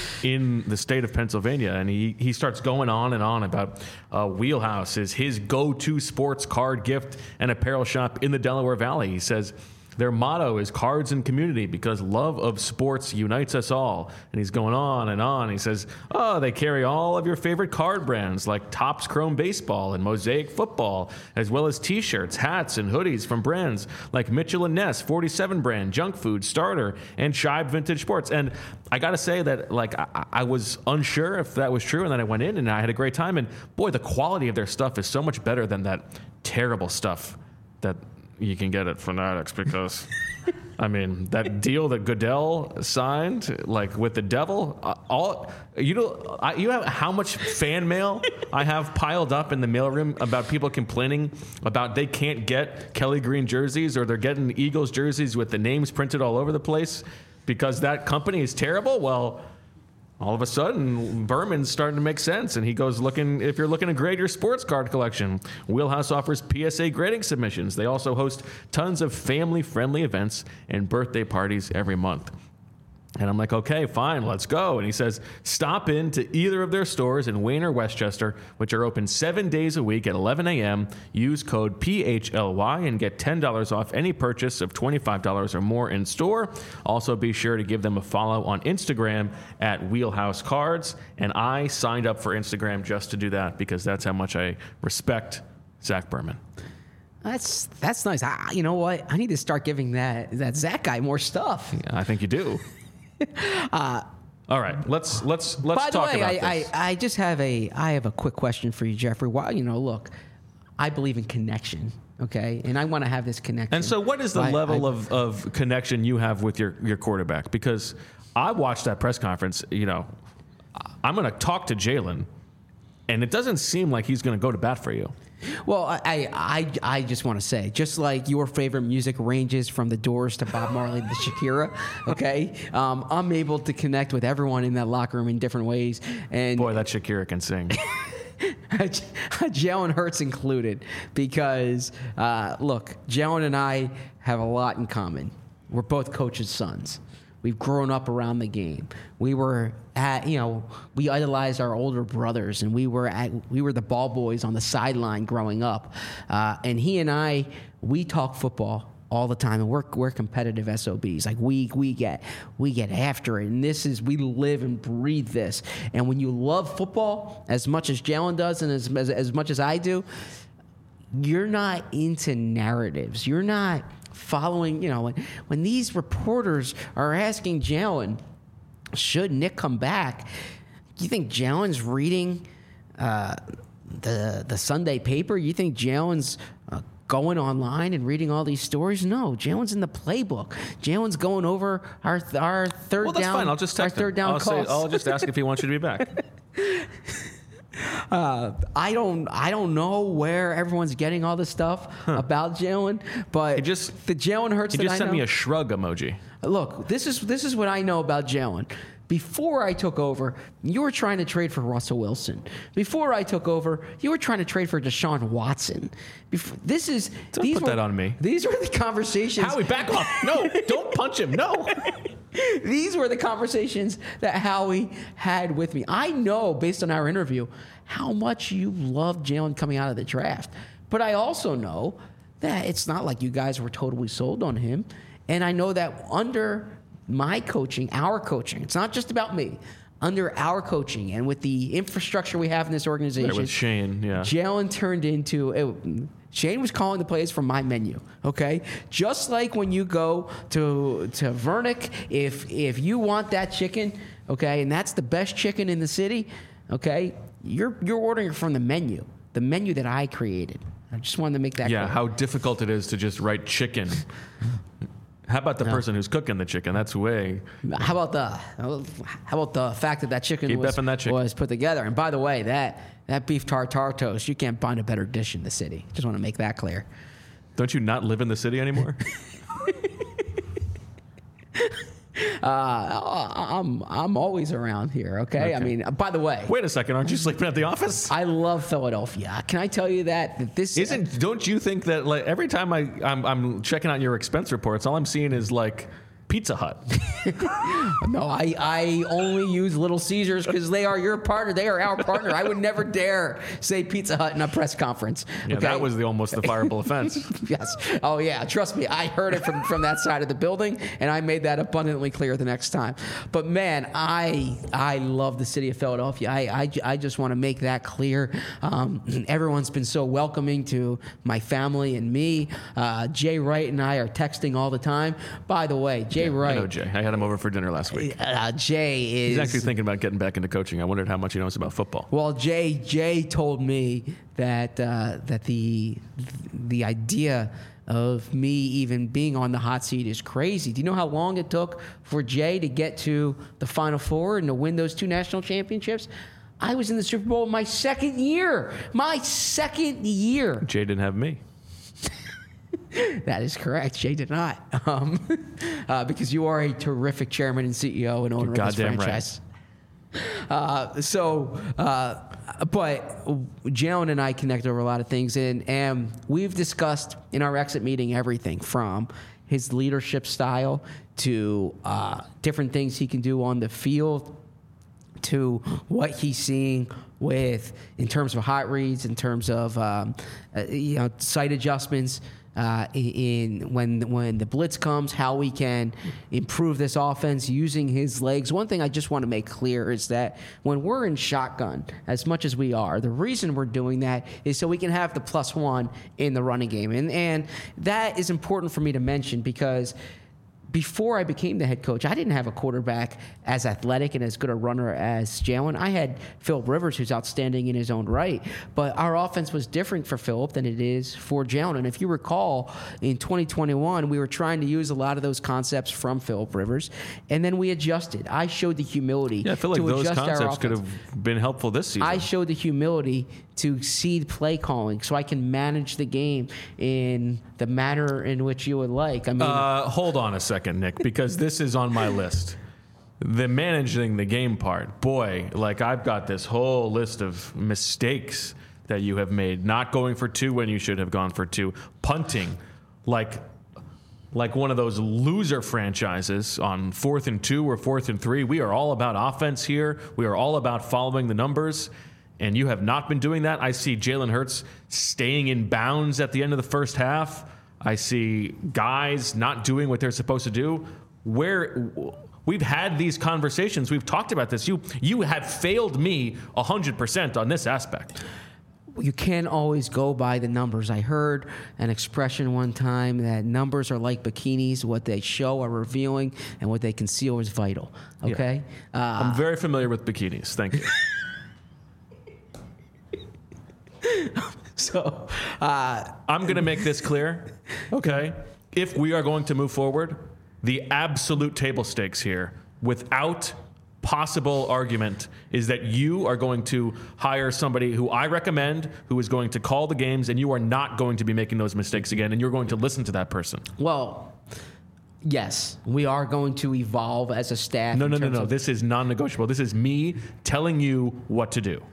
in the state of Pennsylvania. And he, he starts going on and on about uh, Wheelhouse is his go-to sports card gift and apparel shop in the Delaware Valley. He says their motto is cards and community because love of sports unites us all. And he's going on and on. He says, oh, they carry all of your favorite card brands like Topps Chrome Baseball and Mosaic Football, as well as T-shirts, hats, and hoodies from brands like Mitchell and Ness, forty-seven brand, Junk Food, Starter, and Shibe Vintage Sports. And I got to say that, like, I, I was unsure if that was true, and then I went in and I had a great time. And boy, the quality of their stuff is so much better than that terrible stuff that you can get at Fanatics because, I mean, that deal that Goodell signed, like with the devil, uh, all you know, I, you have how much fan mail I have piled up in the mailroom about people complaining about they can't get Kelly Green jerseys or they're getting Eagles jerseys with the names printed all over the place because that company is terrible. Well, all of a sudden, Berman's starting to make sense, and he goes looking, if you're looking to grade your sports card collection, Wheelhouse offers P S A grading submissions. They also host tons of family-friendly events and birthday parties every month. And I'm like, okay, fine, let's go. And he says, stop in to either of their stores in Wayne or Westchester, which are open seven days a week at eleven a.m. Use code P H L Y and get ten dollars off any purchase of twenty-five dollars or more in store. Also, be sure to give them a follow on Instagram at Wheelhouse Cards. And I signed up for Instagram just to do that because that's how much I respect Zach Berman. That's that's nice. I, you know what? I need to start giving that that Zach guy more stuff. Yeah, I think you do. uh, All right, let's let's let's By the talk way, about I, this. I I just have a I have a quick question for you, Jeffrey. Why you know, look, I believe in connection. Okay, and I want to have this connection. And so, what is the I- level I- of, of connection you have with your, your quarterback? Because I watched that press conference. You know, I'm going to talk to Jalen, and it doesn't seem like he's going to go to bat for you. Well, I, I, I just want to say, just like your favorite music ranges from the Doors to Bob Marley to Shakira, okay, um, I'm able to connect with everyone in that locker room in different ways. And Boy, that Shakira can sing. Jalen Hurts included, because uh, look, Jalen and I have a lot in common. We're both coaches' sons. We've grown up around the game. We were at, you know, we idolized our older brothers, and we were at, we were the ball boys on the sideline growing up. Uh, and he and I, we talk football all the time, and we're we're competitive S O Bs. Like we we get we get after it, and this is we live and breathe this. And when you love football as much as Jalen does, and as as, as much as I do, you're not into narratives. You're not following. You know, when when these reporters are asking Jalen, should Nick come back? You think Jalen's reading uh, the the Sunday paper? You think Jalen's uh, going online and reading all these stories? No, Jalen's in the playbook. Jalen's going over our our third well, that's down. fine. I'll just text our third him. down I'll, calls. say, I'll just ask if he wants you to be back. Uh, I don't, I don't know where everyone's getting all this stuff huh. about Jalen, but he just, the Jalen Hurts. He that just I sent know, me a shrug emoji. Look, this is this is what I know about Jalen. Before I took over, you were trying to trade for Russell Wilson. Before I took over, you were trying to trade for Deshaun Watson. Before, this is don't these put were, that on me. These were the conversations. Howie, back off! No, don't punch him. No. These were the conversations that Howie had with me. I know, based on our interview, how much you loved Jalen coming out of the draft. But I also know that it's not like you guys were totally sold on him. And I know that under my coaching, our coaching, it's not just about me, under our coaching and with the infrastructure we have in this organization. Right, with Shane, yeah. Jalen turned into... It, Shane was calling the plays from my menu, okay? Just like when you go to to Vernick, if if you want that chicken, okay, and that's the best chicken in the city, okay, you're you're ordering it from the menu, the menu that I created. I just wanted to make that Yeah, clear. how difficult it is to just write chicken. How about the No. person who's cooking the chicken? That's way... How about the how about the fact that that chicken, Keep was, effing that chicken. was put together? And by the way, that that beef tartare toast, you can't find a better dish in the city. Just want to make that clear. Don't you not live in the city anymore? Uh, I'm I'm always around here. Okay? Okay. I mean, by the way, Wait a second, aren't you sleeping at the office? I love Philadelphia. Can I tell you that that this Isn't? Don't you think that like every time I I'm, I'm checking out your expense reports, all I'm seeing is like Pizza Hut. No, I, I only use Little Caesars because they are your partner. They are our partner. I would never dare say Pizza Hut in a press conference. Yeah, okay? that was the almost the fireable offense. Yes. Oh, yeah. Trust me. I heard it from, from that side of the building, and I made that abundantly clear the next time. But, man, I I love the city of Philadelphia. I, I, I just want to make that clear. Um, everyone's been so welcoming to my family and me. Uh, Jay Wright and I are texting all the time. By the way, Jay Yeah, Wright. I know Jay. I had him over for dinner last week. Uh, Jay is... He's actually thinking about getting back into coaching. I wondered how much he knows about football. Well, Jay Jay told me that uh, that the the idea of me even being on the hot seat is crazy. Do you know how long it took for Jay to get to the Final Four and to win those two national championships? I was in the Super Bowl my second year. My second year. Jay didn't have me. That is correct. Jay did not, um, uh, because you are a terrific chairman and C E O and owner You're of this goddamn franchise. Uh, so, uh, but Jalen and I connect over a lot of things, and, and we've discussed in our exit meeting everything from his leadership style to uh, different things he can do on the field, to what he's seeing with in terms of hot reads, in terms of um, uh, you know sight adjustments. Uh, in when when the blitz comes, how we can improve this offense using his legs. One thing I just want to make clear is that when we're in shotgun, as much as we are, the reason we're doing that is so we can have the plus one in the running game, and and that is important for me to mention because before I became the head coach, I didn't have a quarterback as athletic and as good a runner as Jalen. I had Philip Rivers, who's outstanding in his own right, but our offense was different for Philip than it is for Jalen. And if you recall, in twenty twenty-one, we were trying to use a lot of those concepts from Philip Rivers, and then we adjusted. I showed the humility Yeah, I feel like to those adjust our concepts could offense. have been helpful this season. I showed the humility to seed play calling so I can manage the game in the manner in which you would like. I mean, Uh, hold on a second, Nick, because this is on my list. The managing the game part. Boy, like I've got this whole list of mistakes that you have made. Not going for two when you should have gone for two. Punting like like one of those loser franchises on fourth and two or fourth and three. We are all about offense here. We are all about following the numbers. And you have not been doing that. I see Jalen Hurts staying in bounds at the end of the first half. I see guys not doing what they're supposed to do. Where we've had these conversations, we've talked about this. You you have failed me one hundred percent on this aspect. You can't always go by the numbers. I heard an expression one time that numbers are like bikinis. What they show are revealing, and what they conceal is vital. Okay? Yeah. Uh, I'm very familiar with bikinis. Thank you. so, uh, I'm going to make this clear. Okay? If we are going to move forward, the absolute table stakes here, without possible argument, is that you are going to hire somebody who I recommend, who is going to call the games, and you are not going to be making those mistakes again, and you're going to listen to that person. Well, yes, we are going to evolve as a staff. No, no, no, no. Of- this is non-negotiable. This is me telling you what to do.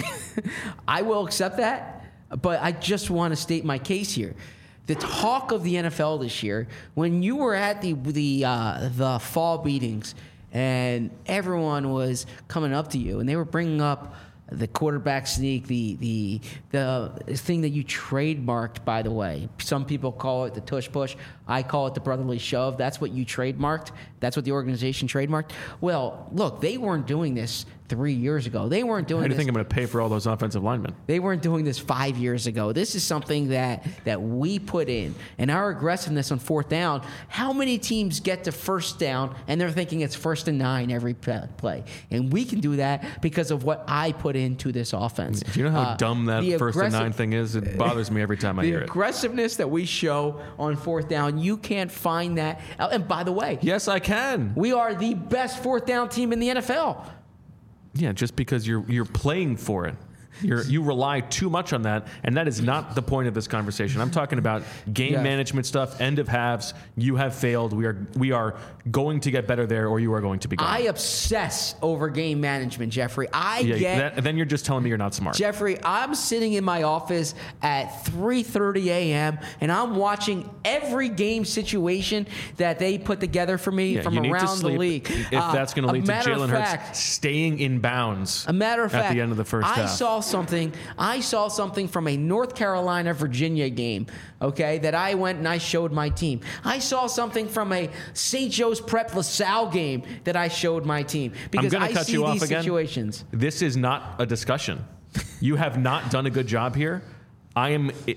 I will accept that, but I just want to state my case here. The talk of the N F L this year, when you were at the the uh, the fall meetings, and everyone was coming up to you, and they were bringing up the quarterback sneak, the the the thing that you trademarked, by the way. Some people call it the tush push. I call it the brotherly shove. That's what you trademarked. That's what the organization trademarked. Well, look, they weren't doing this three years ago. They weren't doing How do you this. think I'm going to pay for all those offensive linemen? They weren't doing this five years ago. This is something that, that we put in. And our aggressiveness on fourth down, how many teams get to first down and they're thinking it's first and nine every play? And we can do that because of what I put into this offense. Do you know how Uh, dumb that the first and aggressive- nine thing is? It bothers me every time I The hear it. aggressiveness that we show on fourth down, you can't find that. And by the way, Yes, I can. we are the best fourth down team in the N F L. Yeah, just because you're you're playing for it. You're, you rely too much on that, and that is not the point of this conversation. I'm talking about game Yeah. management stuff, end of halves. You have failed. We are we are going to get better there, or you are going to be gone. I obsess over game management, Jeffrey. I yeah, get... that, then you're just telling me you're not smart. Jeffrey, I'm sitting in my office at three thirty a.m. and I'm watching every game situation that they put together for me Yeah, from you need to around the sleep league. If Uh, that's going to a lead to matter of Jalen fact- Hurts staying in bounds A matter of fact, at the end of the first I half. saw something. I saw something from a North Carolina Virginia game. Okay, that I went and I showed my team. I saw something from a Saint Joe's Prep LaSalle game that I showed my team because gonna I cut see you off these again. situations. This is not a discussion. You have not done a good job here. I am. It,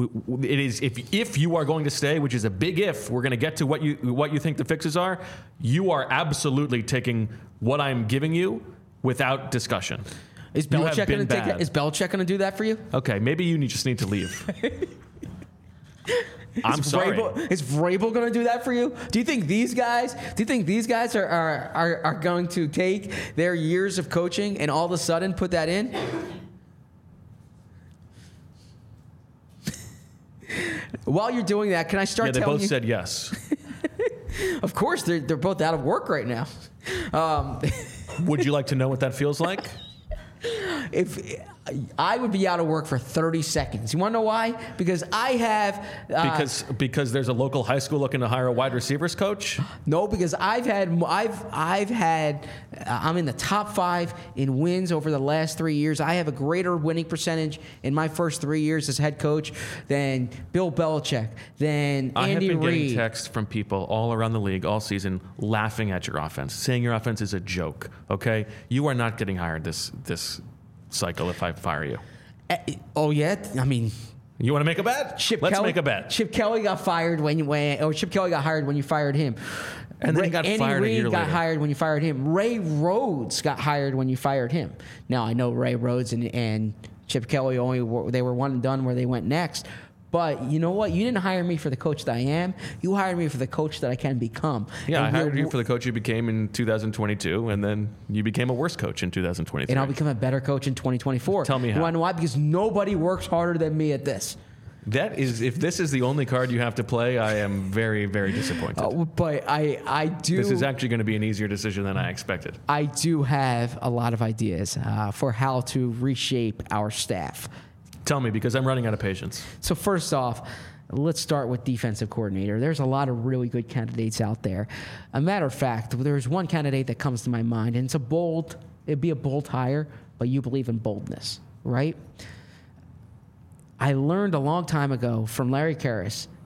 it is if if you are going to stay, which is a big if. We're going to get to what you what you think the fixes are. You are absolutely taking what I'm giving you without discussion. Is You have Belichick been going to take bad. that? Is Belichick going to do that for you? Okay, maybe you need, just need to leave. I'm is sorry. Vrabel, is Vrabel going to do that for you? Do you think these guys? Do you think these guys are, are are are going to take their years of coaching and all of a sudden put that in? While you're doing that, can I start Yeah, they telling both you? said yes. Of course, they're they're both out of work right now. Um, Would you like to know what that feels like? if I would be out of work for thirty seconds. You want to know why? Because I have uh, Because because there's a local high school looking to hire a wide receivers coach. No, because I've had I've I've had uh, I'm in the top five in wins over the last three years. I have a greater winning percentage in my first three years as head coach than Bill Belichick, than I have Andy been getting Reid. texts from people all around the league all season laughing at your offense, saying your offense is a joke. Okay, you are not getting hired this this cycle if I fire you. Uh, oh yeah, I mean. You want to make a bet? Chip Let's Kelly, make a bet. Chip Kelly got fired when you when or Chip Kelly got hired when you fired him. And then he got Andy fired a Reid year got later. hired when you fired him. Ray Rhodes got hired when you fired him. Now I know Ray Rhodes and, and Chip Kelly only were, they were one and done where they went next. But you know what? You didn't hire me for the coach that I am. You hired me for the coach that I can become. Yeah, And I hired we're- you for the coach you became in two thousand twenty-two, and then you became a worse coach in two thousand twenty-three. and I'll become a better coach in twenty twenty-four. Tell me You how. want to know why? Because nobody works harder than me at this. That is, if this is the only card you have to play, I am very, very disappointed. Uh, but I, I do. This is actually going to be an easier decision than I expected. I do have a lot of ideas uh, for how to reshape our staff. Tell me, because I'm running out of patience. So first off, let's start with defensive coordinator. There's a lot of really good candidates out there. A matter of fact, there's one candidate that comes to my mind, and it's a bold, it'd be a bold hire, but you believe in boldness, right? I learned a long time ago from Larry Karras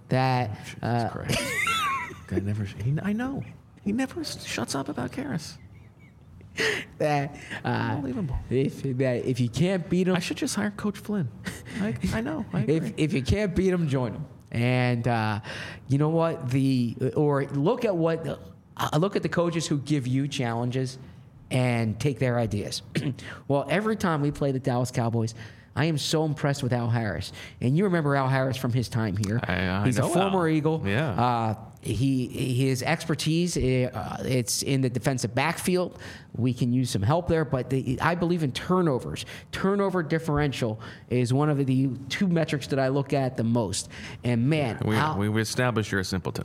that. Uh, Christ. Guy never. He, I know. He never shuts up about Karras. that uh, Unbelievable. If that if you can't beat him, I should just hire Coach Flynn. I, I know. I agree. if if you can't beat him, join him. And uh, you know what? The or look at what uh, look at the coaches who give you challenges and take their ideas. Well, every time we play the Dallas Cowboys, I am so impressed with Al Harris. And you remember Al Harris from his time here. I, I He's know a former Al. Eagle. Yeah. Uh, he his expertise uh, it's in the defensive backfield. We can use some help there, but the, I believe in turnovers. Turnover differential is one of the two metrics that I look at the most. And man, we, Al, we, we established you're a simpleton.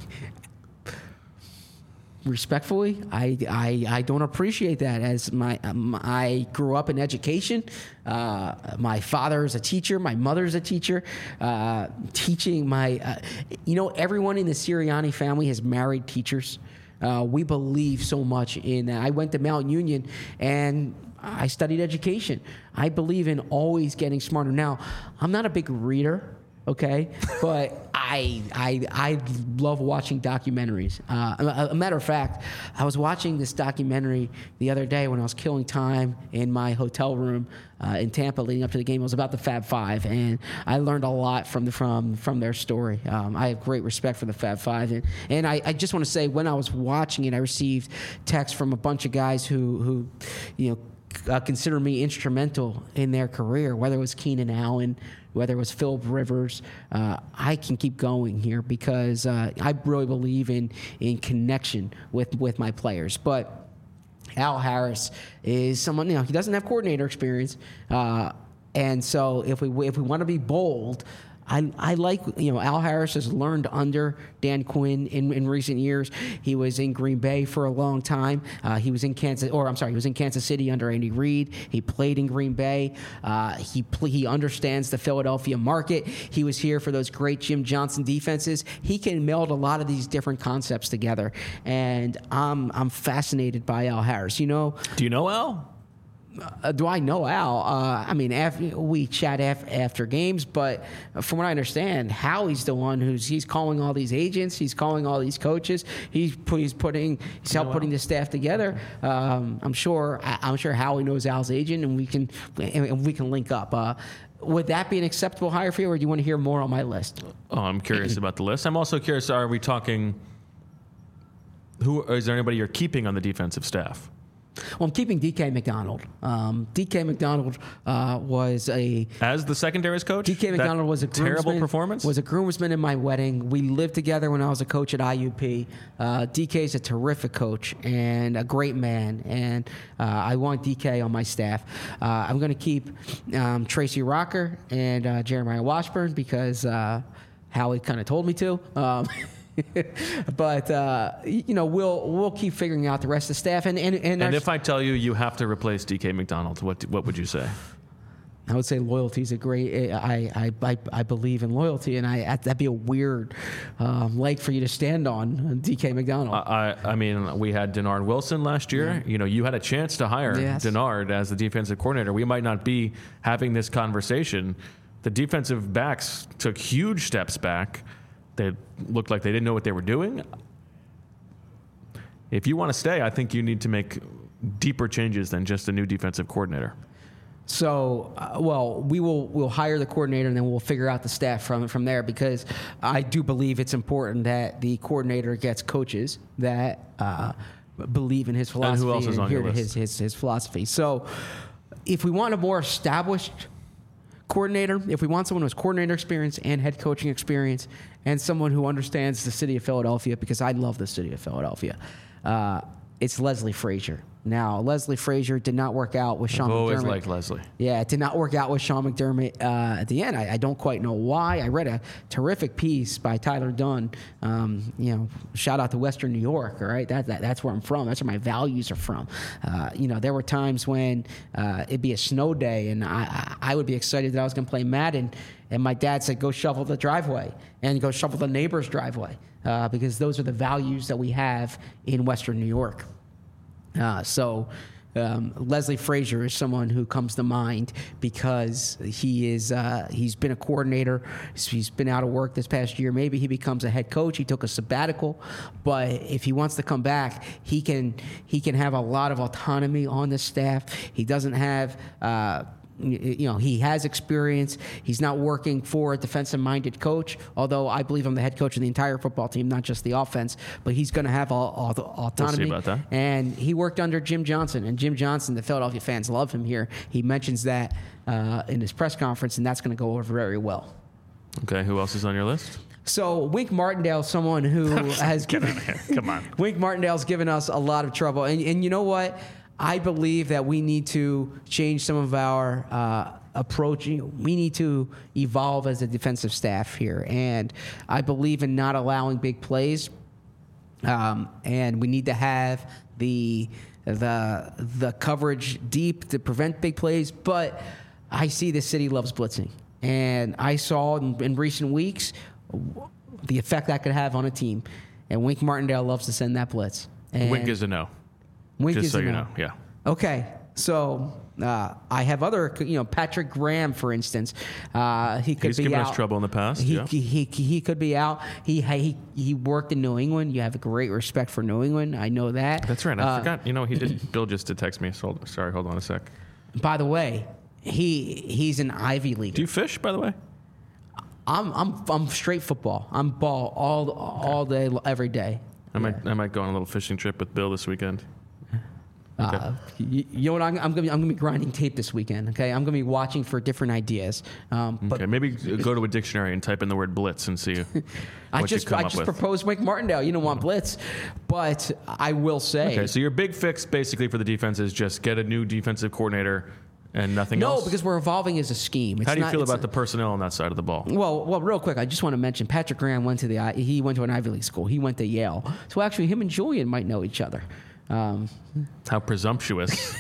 respectfully, I, I I don't appreciate that. As my um, I grew up in education. Uh, my father is a teacher. My mother is a teacher. Uh, teaching my, uh, you know, everyone in the Sirianni family has married teachers. Uh, we believe so much in that. I went to Mount Union and I studied education. I believe in always getting smarter. Now, I'm not a big reader. Okay, but I I I love watching documentaries. Uh, a, a matter of fact, I was watching this documentary the other day when I was killing time in my hotel room uh, in Tampa leading up to the game. It was about the Fab Five, and I learned a lot from the from from their story. Um, I have great respect for the Fab Five, and and I, I just want to say when I was watching it, I received texts from a bunch of guys who who, you know. Uh, consider me instrumental in their career, whether it was Keenan Allen, whether it was Philip Rivers. Uh, I can keep going here because uh, I really believe in in connection with, with my players. But Al Harris is someone, you know, he doesn't have coordinator experience. Uh, and so if we if we want to be bold, I, I like, you know, Al Harris has learned under Dan Quinn in, in recent years. He was in Green Bay for a long time. Uh, he was in Kansas, or I'm sorry, he was in Kansas City under Andy Reid. He played in Green Bay. Uh, he pl- he understands the Philadelphia market. He was here for those great Jim Johnson defenses. He can meld a lot of these different concepts together, and I'm I'm fascinated by Al Harris. You know, Do you know Al? Uh, do I know Al? Uh, I mean, after, we chat af- after games, but from what I understand, Howie's the one who's he's calling all these agents, he's calling all these coaches, he's put, he's putting he's helped putting the staff together. Um, I'm sure I, I'm sure Howie knows Al's agent, and we can and we can link up. Uh, would that be an acceptable hire for you, or do you want to hear more on my list? Oh, I'm curious about the list. I'm also curious. Are we talking? Who is there? Anybody you're keeping on the defensive staff? Well, I'm keeping D K McDonald. Um, D K McDonald uh, was a As the secondaries coach? D K McDonald That was a terrible groomsman- performance. Was a groomsman in my wedding. We lived together when I was a coach at I U P. Uh, D K is a terrific coach and a great man, and uh, I want D K on my staff. Uh, I'm going to keep um, Tracy Rocker and uh, Jeremiah Washburn because uh, Howie kind of told me to. Um, but uh, you know, we'll we'll keep figuring out the rest of the staff. And and and, and our, if I tell you you have to replace D K McDonald, what what would you say? I would say loyalty is a great. I I, I, I believe in loyalty, and I that'd be a weird um, leg for you to stand on, D K McDonald. I I mean, we had Denard Wilson last year. Yeah. You know, you had a chance to hire yes. Denard as the defensive coordinator. We might not be having this conversation. The defensive backs took huge steps back. They looked like they didn't know what they were doing. If you want to stay, I think you need to make deeper changes than just a new defensive coordinator. So, uh, well, we will we'll hire the coordinator, and then we'll figure out the staff from from there, because I do believe it's important that the coordinator gets coaches that uh, believe in his philosophy and, who else is on adhere your to list? his, his his philosophy. So, if we want a more established coordinator, if we want someone who has coordinator experience and head coaching experience, and someone who understands the city of Philadelphia, because I love the city of Philadelphia, uh, it's Leslie Frazier. Now, Leslie Frazier did not work out with Sean I've always McDermott. liked Leslie. Yeah, it did not work out with Sean McDermott uh, at the end. I, I don't quite know why. I read a terrific piece by Tyler Dunn. Um, you know, shout out to Western New York. All right, that, that that's where I'm from. That's where my values are from. Uh, you know, there were times when uh, it'd be a snow day, and I, I would be excited that I was going to play Madden, and my dad said, "Go shovel the driveway and go shovel the neighbor's driveway," uh, because those are the values that we have in Western New York. Uh, so Um, Leslie Frazier is someone who comes to mind because he is uh, he's been a coordinator. He's been out of work this past year. Maybe he becomes a head coach. He took a sabbatical, but if he wants to come back, he can he can have a lot of autonomy on the staff. He doesn't have. Uh, You know, he has experience. He's not working for a defensive-minded coach, although I believe I'm the head coach of the entire football team, not just the offense. But he's going to have all, all the autonomy. We'll see about that. And he worked under Jim Johnson. And Jim Johnson, the Philadelphia fans love him here. He mentions that uh, in his press conference, and that's going to go over very well. Okay, who else is on your list? So Wink Martindale, someone who has Get given, out of here. Come on. Wink Martindale's given us a lot of trouble. And, and you know what? I believe that we need to change some of our uh, approach. We need to evolve as a defensive staff here. And I believe in not allowing big plays. Um, and we need to have the the the coverage deep to prevent big plays. But I see the city loves blitzing. And I saw in, in recent weeks the effect that could have on a team. And Wink Martindale loves to send that blitz. And Wink is a no. Wink Just is so a you no. know, yeah. Okay, so uh, I have other, you know, Patrick Graham, for instance. Uh, he could He's be given out. us trouble in the past. He, yeah. he, he he could be out. He he he worked in New England. You have a great respect for New England. I know that. That's right. I Uh, forgot. You know, he did. Bill just did text me. So, sorry, hold on a sec. By the way, he he's an Ivy League. Do you fish, by the way? I'm I'm I'm straight football. I'm ball all all day, every day. I might I might go on a little fishing trip with Bill this weekend. Uh, you, you know what? I'm, I'm gonna be, I'm gonna be grinding tape this weekend. Okay, I'm gonna be watching for different ideas. Um, but Okay, maybe go to a dictionary and type in the word blitz and see what I you just come I up just with. proposed Wink Martindale. You don't want blitz, but I will say Okay, so your big fix basically for the defense is just get a new defensive coordinator and nothing no, else? because we're evolving as a scheme. It's How do you not- feel it's about the not- personnel on that side of the ball? Well, well, real quick, I just want to mention Patrick Graham went to the I- he went to an Ivy League school. He went to Yale, so actually, him and Julian might know each other. Um, How presumptuous.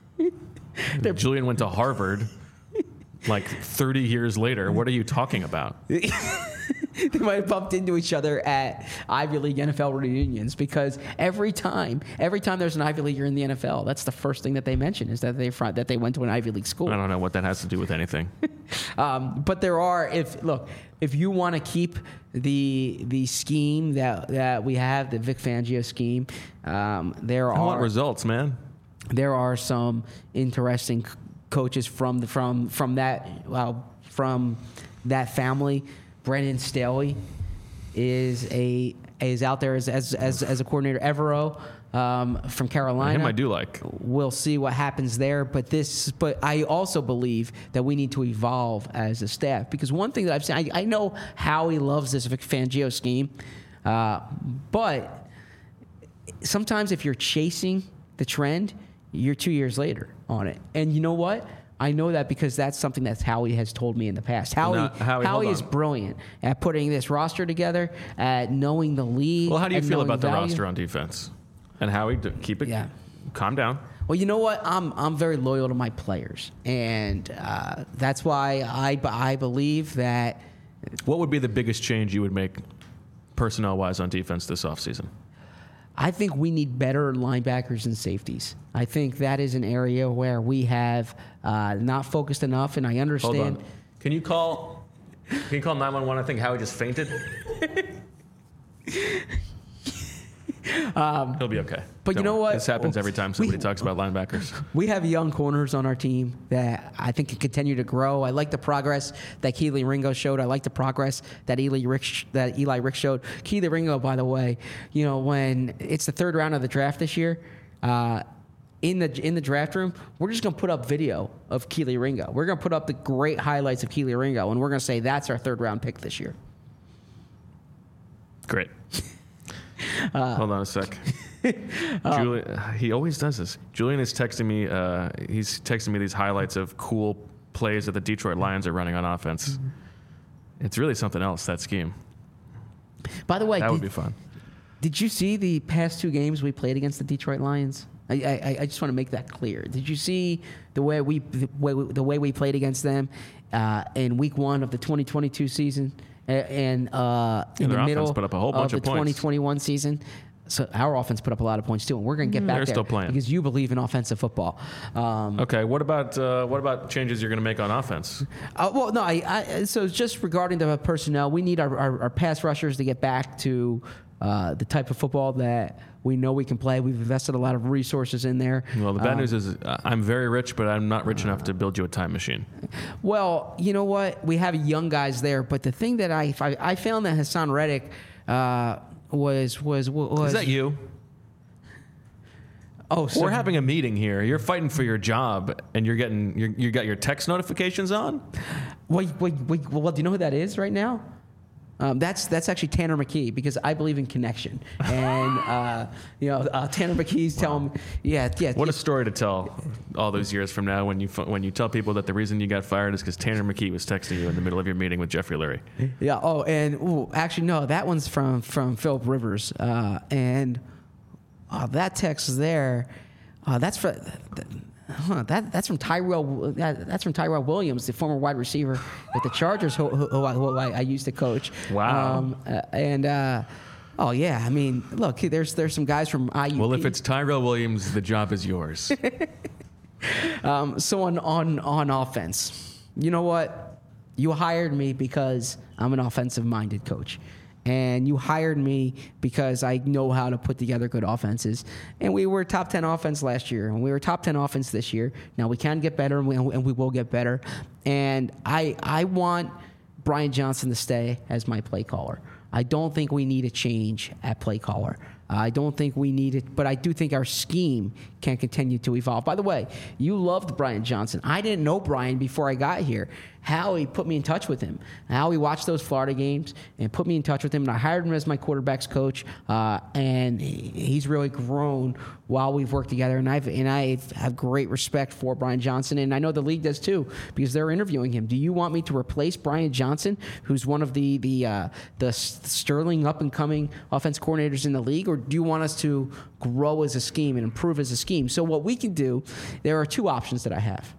Julian went to Harvard like thirty years later. What are you talking about? they might have bumped into each other at Ivy League N F L reunions because every time, every time there's an Ivy Leaguer in the N F L, that's the first thing that they mention is that they fr- that they went to an Ivy League school. I don't know what that has to do with anything. Um, but there are, if look, if you want to keep the the scheme that that we have, the Vic Fangio scheme, um, there I want are results, man. there are some interesting c- coaches from the from from that well, from that family. Brendan Staley is a is out there as as as, as a coordinator. Evero um, from Carolina. Him I do like. We'll see what happens there. But this, but I also believe that we need to evolve as a staff because one thing that I've seen, I, I know Howie loves this Vic Fangio scheme, uh, but sometimes if you're chasing the trend, you're two years later on it. And you know what? I know that because that's something that Howie has told me in the past. Howie, Now, Howie, Howie hold is on. brilliant at putting this roster together, at knowing the league. Well, how do you at feel knowing about the value. roster on defense? And Howie, d- keep it. Yeah. Calm down. Well, you know what? I'm I'm very loyal to my players, and uh, that's why I I believe that. What would be the biggest change you would make personnel-wise on defense this offseason? I think we need better linebackers and safeties. I think that is an area where we have uh, not focused enough, and I Hold understand. on. Can you call? Can you call nine one one? I think Howie just fainted. um, He'll be okay. but you Don't know worry. what? This happens every time somebody We- talks about linebackers. We have young corners on our team that I think can continue to grow. I like the progress that Keely Ringo showed. I like the progress that Eli Rick that Eli Rick showed. Keely Ringo, by the way, you know when it's the third round of the draft this year. Uh, in the in the draft room, we're just gonna put up video of Keely Ringo. We're gonna put up the great highlights of Keely Ringo, and we're gonna say that's our third round pick this year. Great. Uh, Hold on a sec. Julian, he always does this. Julian is texting me. Uh, he's texting me these highlights of cool plays that the Detroit Lions are running on offense. It's really something else, that scheme. By the way, That did, would be fun. did you see the past two games we played against the Detroit Lions? I, I, I just want to make that clear. Did you see the way we the way we, the way we played against them uh, in Week One of the twenty twenty-two season, A- and uh, in their the offense middle put up a whole bunch of of the points. twenty twenty-one season? So our offense put up a lot of points too, and we're going to get back They're there still playing. because you believe in offensive football. Um, Okay, what about uh, what about changes you're going to make on offense? uh, well, no, I, I, so just regarding the personnel, we need our, our, our pass rushers to get back to uh, the type of football that we know we can play. We've invested a lot of resources in there. Well, the bad Um, news is uh, I'm very rich, but I'm not rich enough to build you a time machine. Well, you know what? We have young guys there, but the thing that I I, I found that Hassan Reddick uh, was was was Is that you? Oh, so We're having a meeting here. You're fighting for your job, and you're getting you're, you got your text notifications on. Wait, wait, wait. Well, do you know who that is right now? Um, that's that's actually Tanner McKee, because I believe in connection, and uh, you know uh, Tanner McKee's telling me, yeah, yeah. What yeah. a story to tell all those years from now when you fu- when you tell people that the reason you got fired is because Tanner McKee was texting you in the middle of your meeting with Jeffrey Lurie. Yeah. Oh, and ooh, actually, no, that one's from from Philip Rivers, uh, and uh, that text there, uh, that's for. Huh, that that's from Tyrell. That, that's from Tyrell Williams, the former wide receiver at the Chargers, who, who, who, I, who I, I used to coach. Wow. Um, uh, and uh, oh yeah, I mean, look, there's there's some guys from I U P. Well, if it's Tyrell Williams, the job is yours. um, so on on on offense, you know what? You hired me because I'm an offensive-minded coach. And you hired me because I know how to put together good offenses. And we were top ten offense last year, and we were top ten offense this year. Now we can get better, and we, and we will get better. And I I want Brian Johnson to stay as my play caller. I don't think we need a change at play caller. I don't think we need it, but I do think our scheme can continue to evolve. By the way, you loved Brian Johnson. I didn't know Brian before I got here. Howie put me in touch with him. Howie watched those Florida games and put me in touch with him, and I hired him as my quarterbacks coach. Uh, and he's really grown while we've worked together. And I've and I have great respect for Brian Johnson, and I know the league does too, because they're interviewing him. Do you want me to replace Brian Johnson, who's one of the the uh, the sterling up and coming offense coordinators in the league, or do you want us to grow as a scheme and improve as a scheme? So what we can do, there are two options that I have.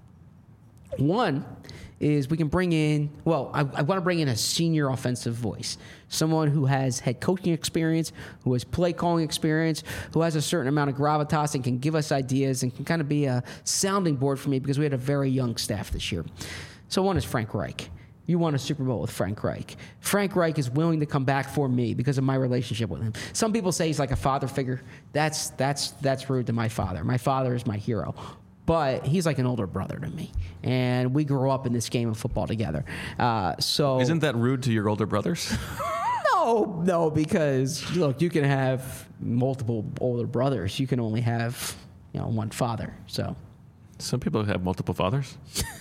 One is we can bring in, well, I, I want to bring in a senior offensive voice, someone who has head coaching experience, who has play calling experience, who has a certain amount of gravitas and can give us ideas and can kind of be a sounding board for me, because we had a very young staff this year. So one is Frank Reich. You won a Super Bowl with Frank Reich. Frank Reich is willing to come back for me because of my relationship with him. Some people say he's like a father figure. That's that's that's rude to my father. My father is my hero. But he's like an older brother to me, and we grew up in this game of football together. Uh, so Isn't that rude to your older brothers? no, no, because look, you can have multiple older brothers. You can only have, you know, one father. So Some people have multiple fathers.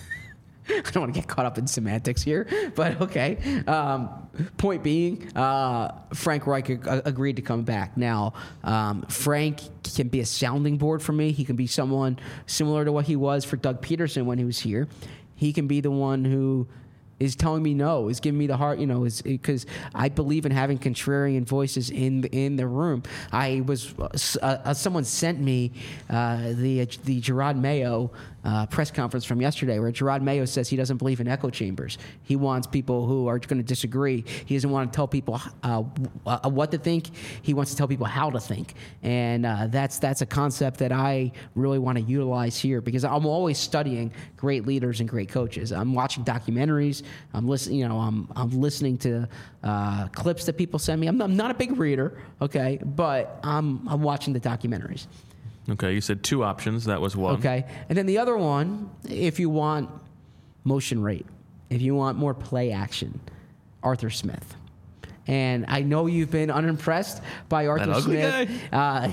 I don't want to get caught up in semantics here, but okay. Um, point being, uh, Frank Reich ag- agreed to come back. Now, um, Frank can be a sounding board for me. He can be someone similar to what he was for Doug Peterson when he was here. He can be the one who is telling me no, is giving me the heart, you know, is because I believe in having contrarian voices in the, in the room. I was uh, uh, someone sent me uh, the the Gerard Mayo uh, press conference from yesterday, where Gerard Mayo says he doesn't believe in echo chambers. He wants people who are going to disagree. He doesn't want to tell people uh, uh, what to think. He wants to tell people how to think, and uh, that's that's a concept that I really want to utilize here, because I'm always studying great leaders and great coaches. I'm watching documentaries. I'm listening, you know, I'm I'm listening to uh, clips that people send me. I'm, I'm not a big reader, okay, but I'm I'm watching the documentaries. Okay, you said two options. That was one. Okay, and then the other one, if you want motion rate, if you want more play action, Arthur Smith. And I know you've been unimpressed by Arthur That ugly Smith. Uh,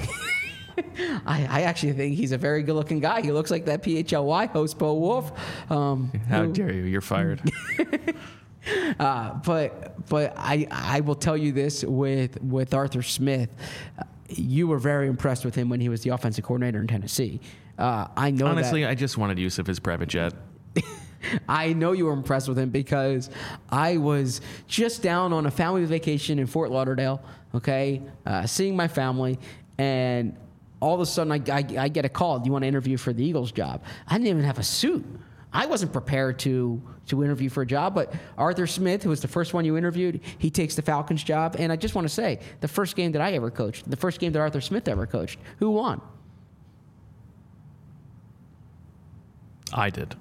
I, I actually think he's a very good-looking guy. He looks like that P H L Y host, Bo Wolf. Um, How who, dare you? You're fired. uh, but but I I will tell you this with with Arthur Smith, uh, you were very impressed with him when he was the offensive coordinator in Tennessee. Uh, I know. Honestly, that, I just wanted use of his private jet. I know you were impressed with him because I was just down on a family vacation in Fort Lauderdale. Okay, uh, seeing my family, and all of a sudden I, I, I get a call. Do you want to interview for the Eagles job? I didn't even have a suit. I wasn't prepared to to interview for a job, but Arthur Smith, who was the first one you interviewed, he takes the Falcons job. And I just want to say, the first game that I ever coached, the first game that Arthur Smith ever coached, who won? I did.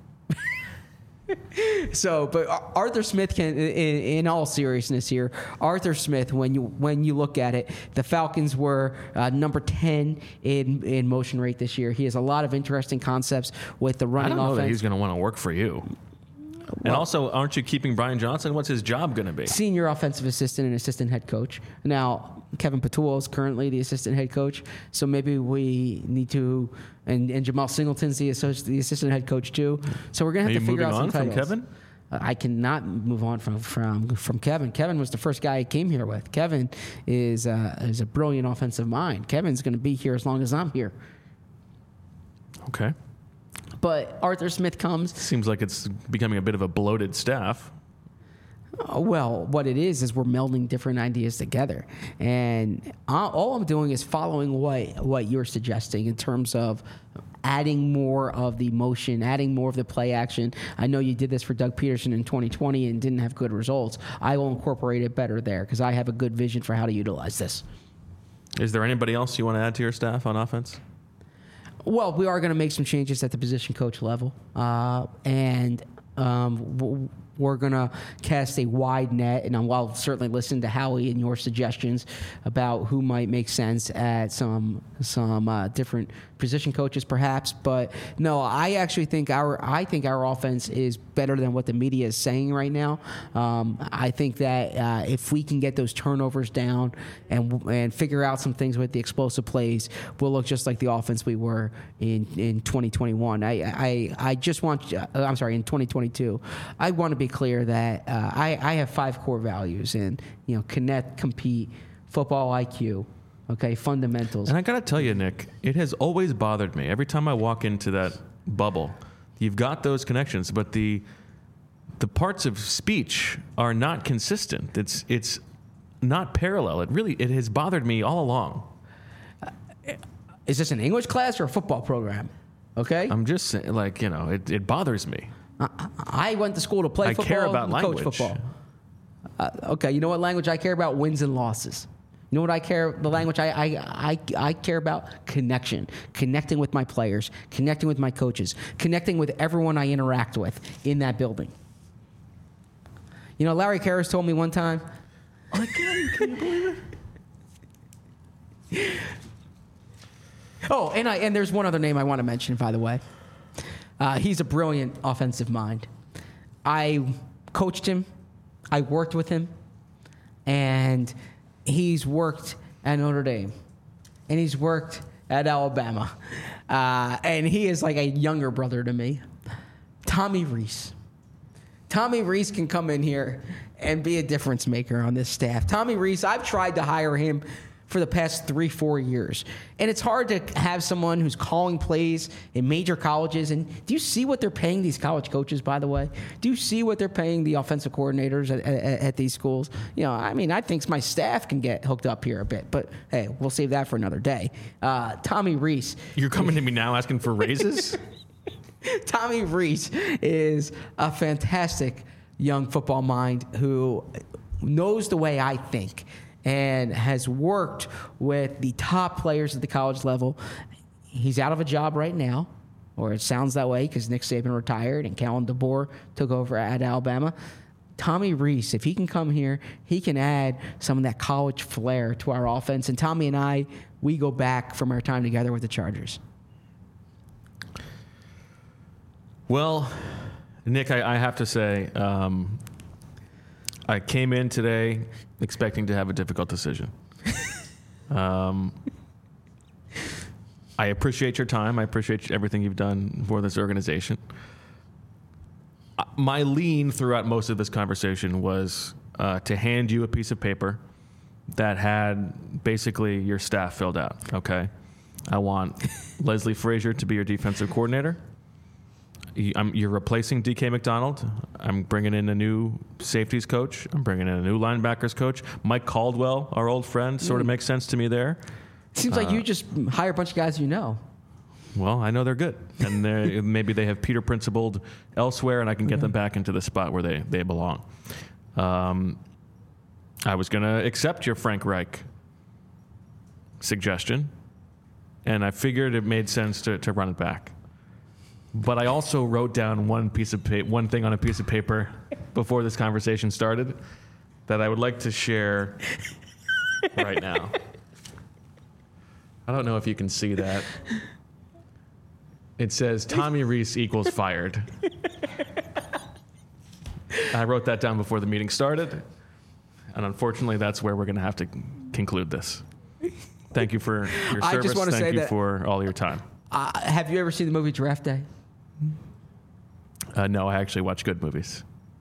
So, but Arthur Smith can, in, in all seriousness here, Arthur Smith, when you when you look at it, the Falcons were uh, number ten in in motion rate this year. He has a lot of interesting concepts with the running I don't know offense. that he's going to want to work for you. And Well- also, aren't you keeping Brian Johnson? What's his job going to be? Senior offensive assistant and assistant head coach. Now, Kevin Patul is currently the assistant head coach, so maybe we need to, and, and Jamal Singleton's the, associ- the assistant head coach too. So we're going Are to have you to figure moving out on some from titles. Kevin? Uh, I cannot move on from, from from Kevin. Kevin was the first guy I came here with. Kevin is uh, is a brilliant offensive mind. Kevin's going to be here as long as I'm here. Okay. But Arthur Smith comes. Seems like it's becoming a bit of a bloated staff. Uh, Well, what it is is we're melding different ideas together, and I, all I'm doing is following what what you're suggesting in terms of adding more of the motion, adding more of the play action. I know you did this for Doug Peterson in twenty twenty and didn't have good results. I will incorporate it better there because I have a good vision for how to utilize this. Is there anybody else you want to add to your staff on offense? Well, we are going to make some changes at the position coach level, uh, and um, w- we're going to cast a wide net. And I'll certainly listen to Howie and your suggestions about who might make sense at some some uh, different position coaches, perhaps. But no, I actually think our I think our offense is better than what the media is saying right now. Um, I think that uh, if we can get those turnovers down and and figure out some things with the explosive plays, we'll look just like the offense we were in, in twenty twenty-one. I I I just want uh, I'm sorry in twenty twenty-two. I want to be clear that uh, I I have five core values and you know connect, compete, football I Q. Okay, fundamentals. And I got to tell you, Nick, it has always bothered me. Every time I walk into that bubble, you've got those connections, but the the parts of speech are not consistent. It's it's not parallel. It really it has bothered me all along. Is this an English class or a football program? Okay, I'm just saying, like, you know, it, it bothers me. I, I went to school to play I football care about and coach language. football. Uh, okay, you know what language I care about? Wins and losses. You know what I care? The language I, I, I, I care about? Connection. Connecting with my players. Connecting with my coaches. Connecting with everyone I interact with in that building. You know, Larry Karras told me one time. Again, can you believe it? Oh, and I and there's one other name I want to mention, by the way. Uh, he's a brilliant offensive mind. I coached him. I worked with him. And he's worked at Notre Dame. And he's worked at Alabama. Uh, and he is like a younger brother to me. Tommy Rees. Tommy Rees can come in here and be a difference maker on this staff. Tommy Rees, I've tried to hire him for the past three, four years. And it's hard to have someone who's calling plays in major colleges. And do you see what they're paying these college coaches, by the way? Do you see what they're paying the offensive coordinators at, at, at these schools? You know, I mean, I think my staff can get hooked up here a bit. But, hey, we'll save that for another day. Uh, Tommy Rees. You're coming to me now asking for raises? Tommy Rees is a fantastic young football mind who knows the way I think and has worked with the top players at the college level. He's out of a job right now, or it sounds that way because Nick Saban retired and Kellen DeBoer took over at Alabama. Tommy Rees, if he can come here, he can add some of that college flair to our offense. And Tommy and I, we go back from our time together with the Chargers. Well, Nick, I, I have to say, um, I came in today expecting to have a difficult decision. um, I appreciate your time. I appreciate everything you've done for this organization. Uh, my lean throughout most of this conversation was uh, to hand you a piece of paper that had basically your staff filled out, okay? I want Leslie Frazier to be your defensive coordinator. I'm, you're replacing D K McDonald. I'm bringing in a new safeties coach. I'm bringing in a new linebackers coach. Mike Caldwell, our old friend, sort of makes sense to me there. Seems Uh, like you just hire a bunch of guys you know. well, I know they're good, and they're, maybe they have Peter Principled elsewhere, and I can get them back into the spot where they they belong. Um, I was going to accept your Frank Reich suggestion, and I figured it made sense to, to run it back. But I also wrote down one piece of pa- one thing on a piece of paper before this conversation started that I would like to share right now. I don't know if you can see that. It says Tommy Rees equals fired. I wrote that down before the meeting started, and unfortunately, that's where we're going to have to conclude this. Thank you for your service. I just want to Thank say you that, for all your time. Uh, have you ever seen the movie Draft Day? Uh, no, I actually watch good movies.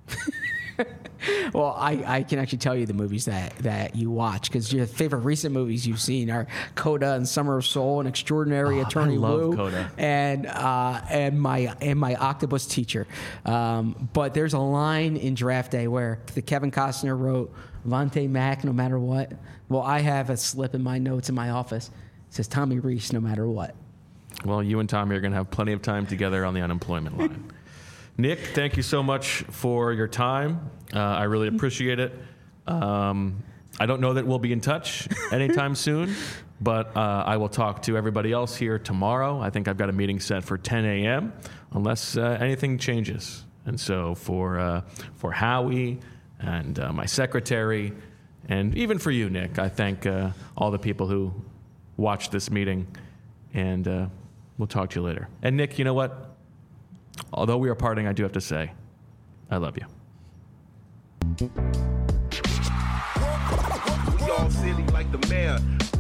Well, I, I can actually tell you the movies that, that you watch, because your favorite recent movies you've seen are Coda and Summer of Soul and Extraordinary Oh, Attorney I love Woo Coda. and uh, and my and my Octopus Teacher. Um, but there's a line in Draft Day where the Kevin Costner wrote Vontae Mack, no matter what. Well, I have a slip in my notes in my office. It says Tommy Rees, no matter what. Well, you and Tommy are going to have plenty of time together on the unemployment line. Nick, thank you so much for your time. Uh, I really appreciate it. Um, I don't know that we'll be in touch anytime soon, but uh, I will talk to everybody else here tomorrow. I think I've got a meeting set for ten a.m. unless uh, anything changes. And so for uh, for Howie and uh, my secretary, and even for you, Nick, I thank uh, all the people who watched this meeting, and uh, we'll talk to you later. And Nick, you know what? Although we are parting, I do have to say, I love you. We all silly like the mayor.